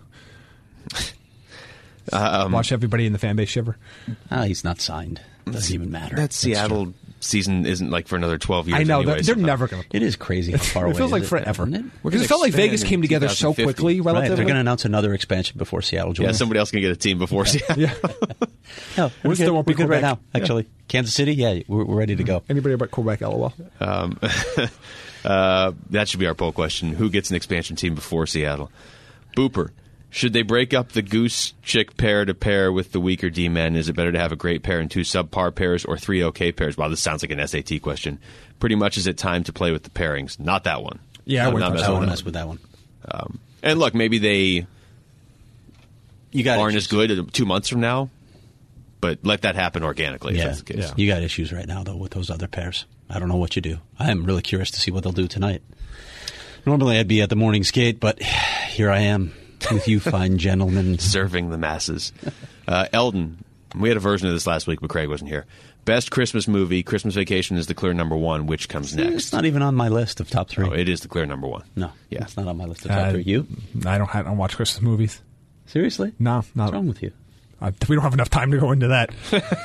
Um, Watch everybody in the fan base shiver. Ah, he's not signed. Doesn't even matter. That Seattle season isn't like for another twelve years. I know anyway, that they're so- never going to. It is crazy how far away It feels like is forever. isn't it? Because it felt like expand Vegas in came together so twenty fifty. quickly, Right, relatively. they're going to announce another expansion before Seattle joins. Yeah, somebody else can get a team before Seattle. yeah. No, we're still good, won't be we're good right now, Quebec. actually. Kansas City, yeah, we're, we're ready to go. Anybody but Quebec, lol. Um, uh, that should be our poll question. Who gets an expansion team before Seattle? Booper. Should they break up the Goose Chick pair to pair with the weaker D-men? Is it better to have a great pair and two subpar pairs or three okay pairs? Wow, this sounds like an S A T question. Pretty much is it time to play with the pairings? Not that one. Yeah, I I'm wouldn't not touch messing I that wouldn't with mess that. with that one. Um, and look, maybe they You got aren't issues. as good two months from now, but let that happen organically if Yeah, that's the case. yeah. You got issues right now, though, with those other pairs. I don't know what you do. I am really curious to see what they'll do tonight. Normally I'd be at the morning skate, but here I am with you fine gentlemen. Serving the masses. Uh, Eldon, we had a version of this last week, but Craig wasn't here. Best Christmas movie, Christmas Vacation is the clear number one. Which comes next? It's not even on my list of top three. Oh, it is the clear number one. No, Yeah. it's not on my list of top Uh, three. You? I don't. I don't watch Christmas movies. Seriously? No, not. What's wrong with you? Uh, we don't have enough time to go into that.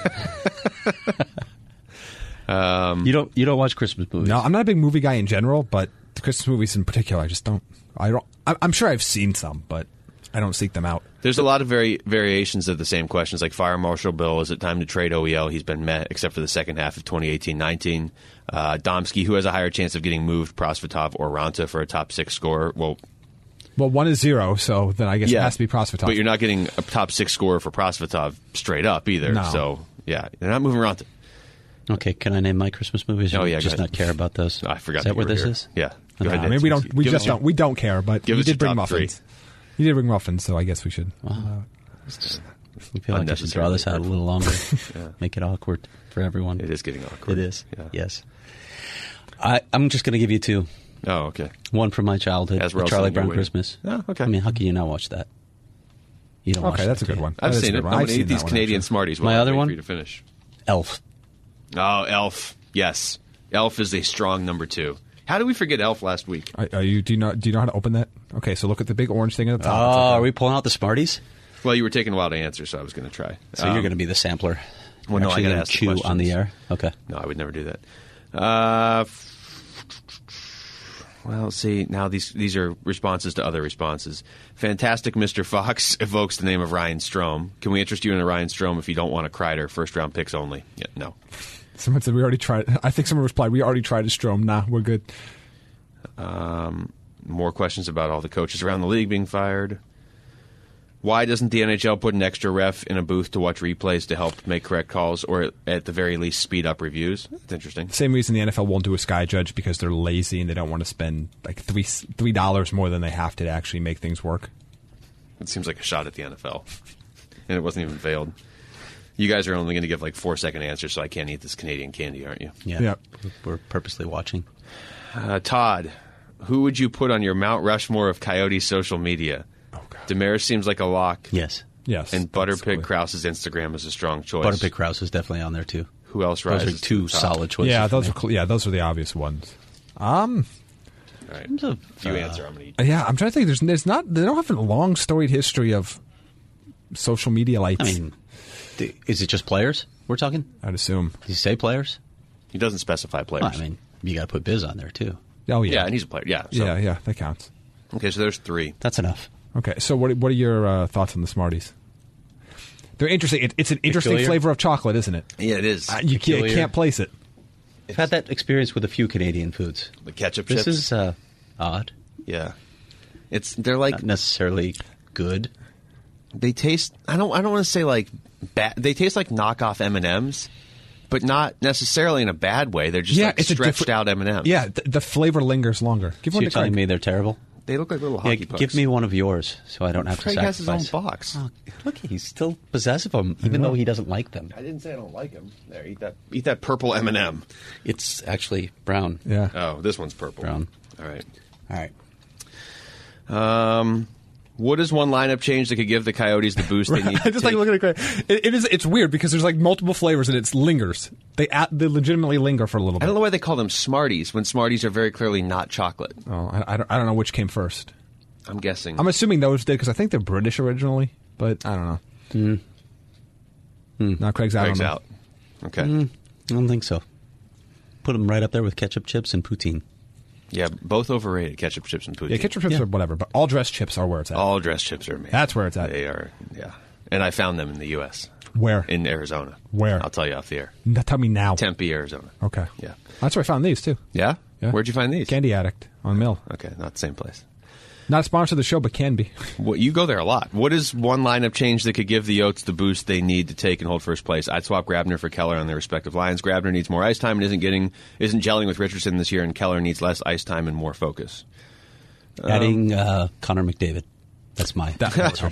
You don't you don't watch Christmas movies? No, I'm not a big movie guy in general, but the Christmas movies in particular, I just don't. I don't. I- I'm sure I've seen some, but I don't seek them out. There's a lot of vari- variations of the same questions, like Fire Marshal Bill, is it time to trade O E L? He's been met, except for the second half of twenty eighteen nineteen. Uh, Domsky, who has a higher chance of getting moved, Prosvetov or Ranta for a top six scorer? Well, Well, one is zero, so then I guess yeah. it has to be Prosvetov. But you're not getting a top six scorer for Prosvetov straight up either. No. So, yeah, they're not moving Ranta. Okay, can I name my Christmas movies? Or Oh, yeah, go just ahead. not care about those? I forgot Is that you where were this here. is? Yeah. Go No, ahead. I mean, we don't. We Give just us your- don't. We don't care. But give you us your did bring top three. muffins. You did bring muffins, so I guess we should. We feel like we should draw this out a little longer. Make it awkward for everyone. It is getting awkward. It is. Yeah. Yes. I, I'm just going to give you two. Oh, okay. One from my childhood, As The we're Charlie also Brown waiting. Christmas. Oh, okay. I mean, how can you not watch that? You don't watch Okay, that's a that, good do you? one. I've That is a seen good it. one. I'm I've going to eat seen these that one, Canadian actually. Smarties. My while I other wait one? for you to finish. Elf. Oh, Elf. Yes. Elf is a strong number two. How did we forget Elf last week? Are, are you? Do you know? Do you know how to open that? Okay, so look at the big orange thing at the Oh, top. It's like are a- we pulling out the Smarties? Well, you were taking a while to answer, so I was going to try. So Um, you're going to be the sampler. well, no, I Actually gotta gonna ask the chew on the questions. air. Okay. No, I would never do that. Uh, Well, see, now these these are responses to other responses. Fantastic Mister Fox evokes the name of Ryan Strome. Can we interest you in a Ryan Strome if you don't want a Kreider? First round picks only. Yeah, no. Someone said we already tried. I think someone replied, we already tried a Strome. Nah, we're good. Um, more questions about all the coaches around the league being fired. Why doesn't the N H L put an extra ref in a booth to watch replays to help make correct calls, or at the very least speed up reviews? That's interesting. Same reason the N F L won't do a sky judge, because they're lazy and they don't want to spend like three three dollars more than they have to to actually make things work. It seems like a shot at the N F L, and it wasn't even veiled. You guys are only going to give like four second answers, so I can't eat this Canadian candy, aren't you? Yeah, Yeah. we're purposely watching. Uh, Todd, who would you put on your Mount Rushmore of Coyotes social media? Oh, God. Damaris seems like a lock. Yes. Yes. And Butterpig basically. Krause's Instagram is a strong choice. Butterpick Krause is definitely on there, too. Who else Those rises? are two to the top? solid choices. Yeah, for those me. are cl- yeah, those are the obvious ones. Um, All right. terms of, If you uh, answer, I'm going to eat. yeah, I'm trying to think. There's, there's not. They don't have a long storied history of social media lights. I mean, th- is it just players we're talking? I'd assume. Did you say players? He doesn't specify players. Well, I mean, you got to put Biz on there, too. Oh yeah, yeah, and he's a player. Yeah. So. yeah, yeah. That counts. Okay, so there's three. That's enough. Okay, so what what are your uh, thoughts on the Smarties? They're interesting. It, it's an interesting Peculiar? flavor of chocolate, isn't it? Yeah, it is. Uh, you can't, Peculiar. can't place it. I've had that experience with a few Canadian foods. The ketchup This chips. is uh, odd. Yeah. It's they're like Not necessarily good. they taste. I don't. I don't want to say like bad. They taste like knockoff M and M's, but not necessarily in a bad way. They're just Yeah, like it's a stretched different- out M and M's. Yeah, th- the flavor lingers longer. Give So one you're to telling Craig. me they're terrible? They look like little Yeah, hockey pucks. give me one of yours so I don't have Craig to has his own sacrifice. box. Oh, look, he's still possessive of them, even though he doesn't like them. I didn't say I don't like them. There, eat that. Eat that purple M and M. It's actually brown. Yeah. Oh, this one's purple. Brown. All right. All right. Um, what is one lineup change that could give the Coyotes the boost they need? I to just like take- looking at Craig. It, it is. It's weird because there's like multiple flavors and it lingers. They at, they legitimately linger for a little bit. I don't know why they call them Smarties when Smarties are very clearly not chocolate. Oh, I, I, don't, I don't know which came first. I'm guessing. I'm assuming those did because I think they're British originally, but I don't know. Mm. Mm. Now Craig's out. Craig's on them. out. Okay. Mm, I don't think so. Put them right up there with ketchup chips and poutine. Yeah, both overrated. Ketchup chips and poutine. Yeah, ketchup chips Yeah. are whatever, but all dressed chips are where it's at. All dressed chips are amazing. That's where it's at. They are. Yeah, and I found them in the U S Where? in Arizona. Where? I'll tell you off the air. N- Tell me now. Tempe, Arizona. Okay. Yeah. That's where I found these too. Yeah. Yeah. Where'd you find these? Candy Addict on Mill. Okay, not the same place. Not a sponsor of the show, but can be. Well, you go there a lot. What is one lineup change that could give the Yotes the boost they need to take and hold first place? I'd swap Grabner for Keller on their respective lines. Grabner needs more ice time and isn't getting isn't gelling with Richardson this year, and Keller needs less ice time and more focus. Adding uh, Connor McDavid. That's my answer.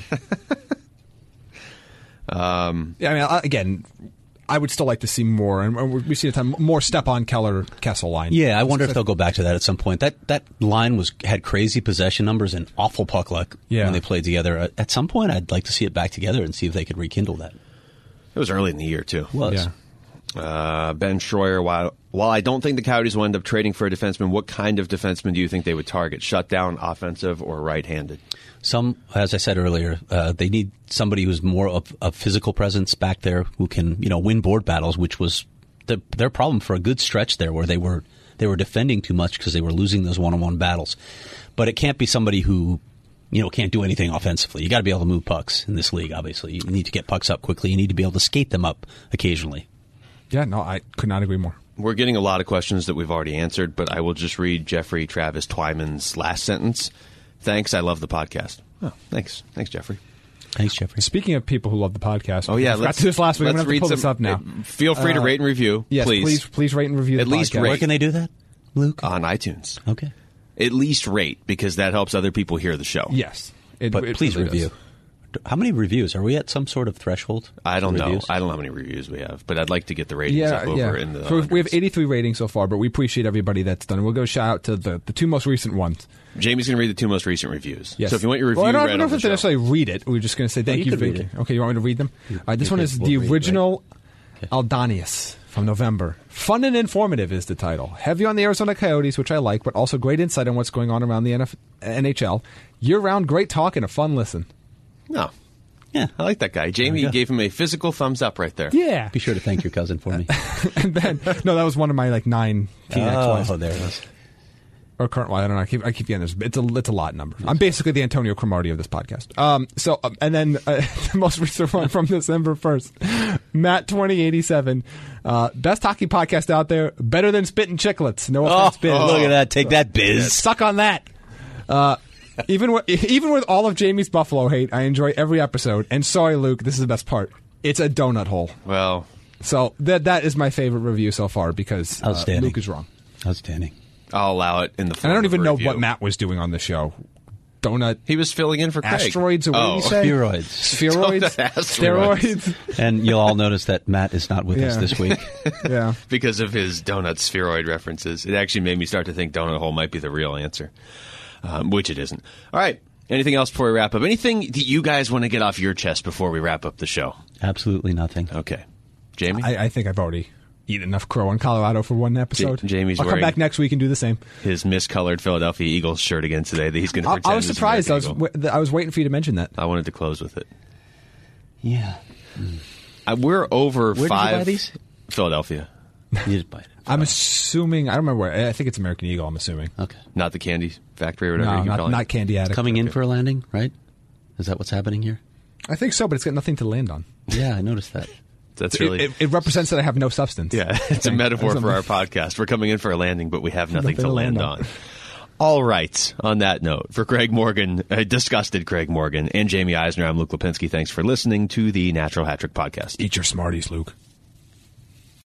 Um, Yeah, I mean, I- again, I would still like to see more, and we see a time more step on Keller Kessel line. Yeah, I wonder if they'll go back to that at some point. That that line was had crazy possession numbers and awful puck luck Yeah. when they played together. At- At some point, I'd like to see it back together and see if they could rekindle that. it was early in the year too. Was. Yeah. Uh, Ben Schroyer, while while I don't think the Coyotes will end up trading for a defenseman, what kind of defenseman do you think they would target? Shutdown, offensive, or right-handed? Some, as I said earlier, uh, they need somebody who's more of a physical presence back there who can, you know, win board battles, which was the, their problem for a good stretch there, where they were they were defending too much because they were losing those one-on-one battles. But it can't be somebody who, you know, can't do anything offensively. You got to be able to move pucks in this league. Obviously, you need to get pucks up quickly. You need to be able to skate them up occasionally. Yeah, no, I could not agree more. We're getting a lot of questions that we've already answered, but I will just read Jeffrey Travis Twyman's last sentence. Thanks, I love the podcast. Oh, thanks. Thanks, Jeffrey. Thanks, Jeffrey. Speaking of people who love the podcast, Oh, yeah. I forgot Let's to do this last week. I'm let's going to have to read pull this some- up now. uh, Feel free to Uh, rate and review, Yes, please. please, please rate and review At the least podcast. rate. Where can they do that, Luke? On iTunes. Okay. At least rate, because that helps other people hear the show. Yes, It- But it please really review. does. How many reviews? Are we at some sort of threshold? I don't for know. reviews? I don't know how many reviews we have, but I'd like to get the ratings Yeah, up over yeah. in the So we have hundreds. eighty-three ratings so far, but we appreciate everybody that's done it. We'll go shout out to the, the two most recent ones. Jamie's going to read the two most recent reviews. Yes. So if you want your review well, I don't read know on if the it's show. necessarily read it. We're just going to say thank you you. could for read it. Okay, you want me to read them? All right, this you one could- is we'll the read, original Aldanius from November. Fun and informative is the title. Heavy on the Arizona Coyotes, which I like, but also great insight on what's going on around the N F- N H L. Year-round great talk and a fun listen. No. Yeah. I like that guy. Jamie go. gave him a physical thumbs up right there. Yeah. Be sure to thank your cousin for me. And then, no, that was one of my like nine teen ex-wives. Oh, there it is. Or current, well, I don't know. I keep, I keep getting this. It's a, it's a lot number. I'm basically the Antonio Cromartie of this podcast. Um, so, um, and then uh, the most recent one from December first, Matt twenty eighty-seven, uh, best hockey podcast out there, better than Spittin' Chicklets. No Oh, offense, Biz. look at that. Take that, Biz. Suck on that. Uh, even with, even with all of Jamie's Buffalo hate, I enjoy every episode. And sorry, Luke, this is the best part. It's a donut hole. Well, So that that is my favorite review so far because uh, Outstanding. Luke is wrong. Outstanding. I'll allow it in the form And I don't of even a know review. what Matt was doing on the show. Donut He was filling in for Craig. asteroids, or what oh. did you say? Spheroids. Spheroids? Donut asteroids. Steroids? And you'll all notice that Matt is not with us Yeah. this week. Yeah. Because of his donut spheroid references. It actually made me start to think donut hole might be the real answer, um, which it isn't. All right. Anything else before we wrap up? Anything that you guys want to get off your chest before we wrap up the show? Absolutely nothing. Okay. Jamie? I, I think I've already eaten enough crow in Colorado for one episode. Ja- Jamie's I'll come wearing- back next week and do the same. His miscolored Philadelphia Eagles shirt again today that he's going to I, pretend I was is surprised. I was American Eagle. w- I was waiting for you to mention that. I wanted to close with it. Yeah. I, we're over Where did you five. buy these? Philadelphia. You just buy it. I'm assuming. I don't remember where. I think it's American Eagle. I'm assuming. Okay. Not the candy factory or whatever No, you not, call it. not Candy Addict. Coming in for a landing, right? Is that what's happening here? I think so, but it's got nothing to land on. Yeah, I noticed that. That's It, really. it, it represents that I have no substance. Yeah, it's a Thing. metaphor Something. for our podcast. We're coming in for a landing, but we have nothing, Nothing to to land, land on. on. All right. On that note, for Craig Morgan, uh, disgusted Craig Morgan, and Jamie Eisner, I'm Luke Lipinski. Thanks for listening to the Natural Hat Trick Podcast. Eat your Smarties, Luke.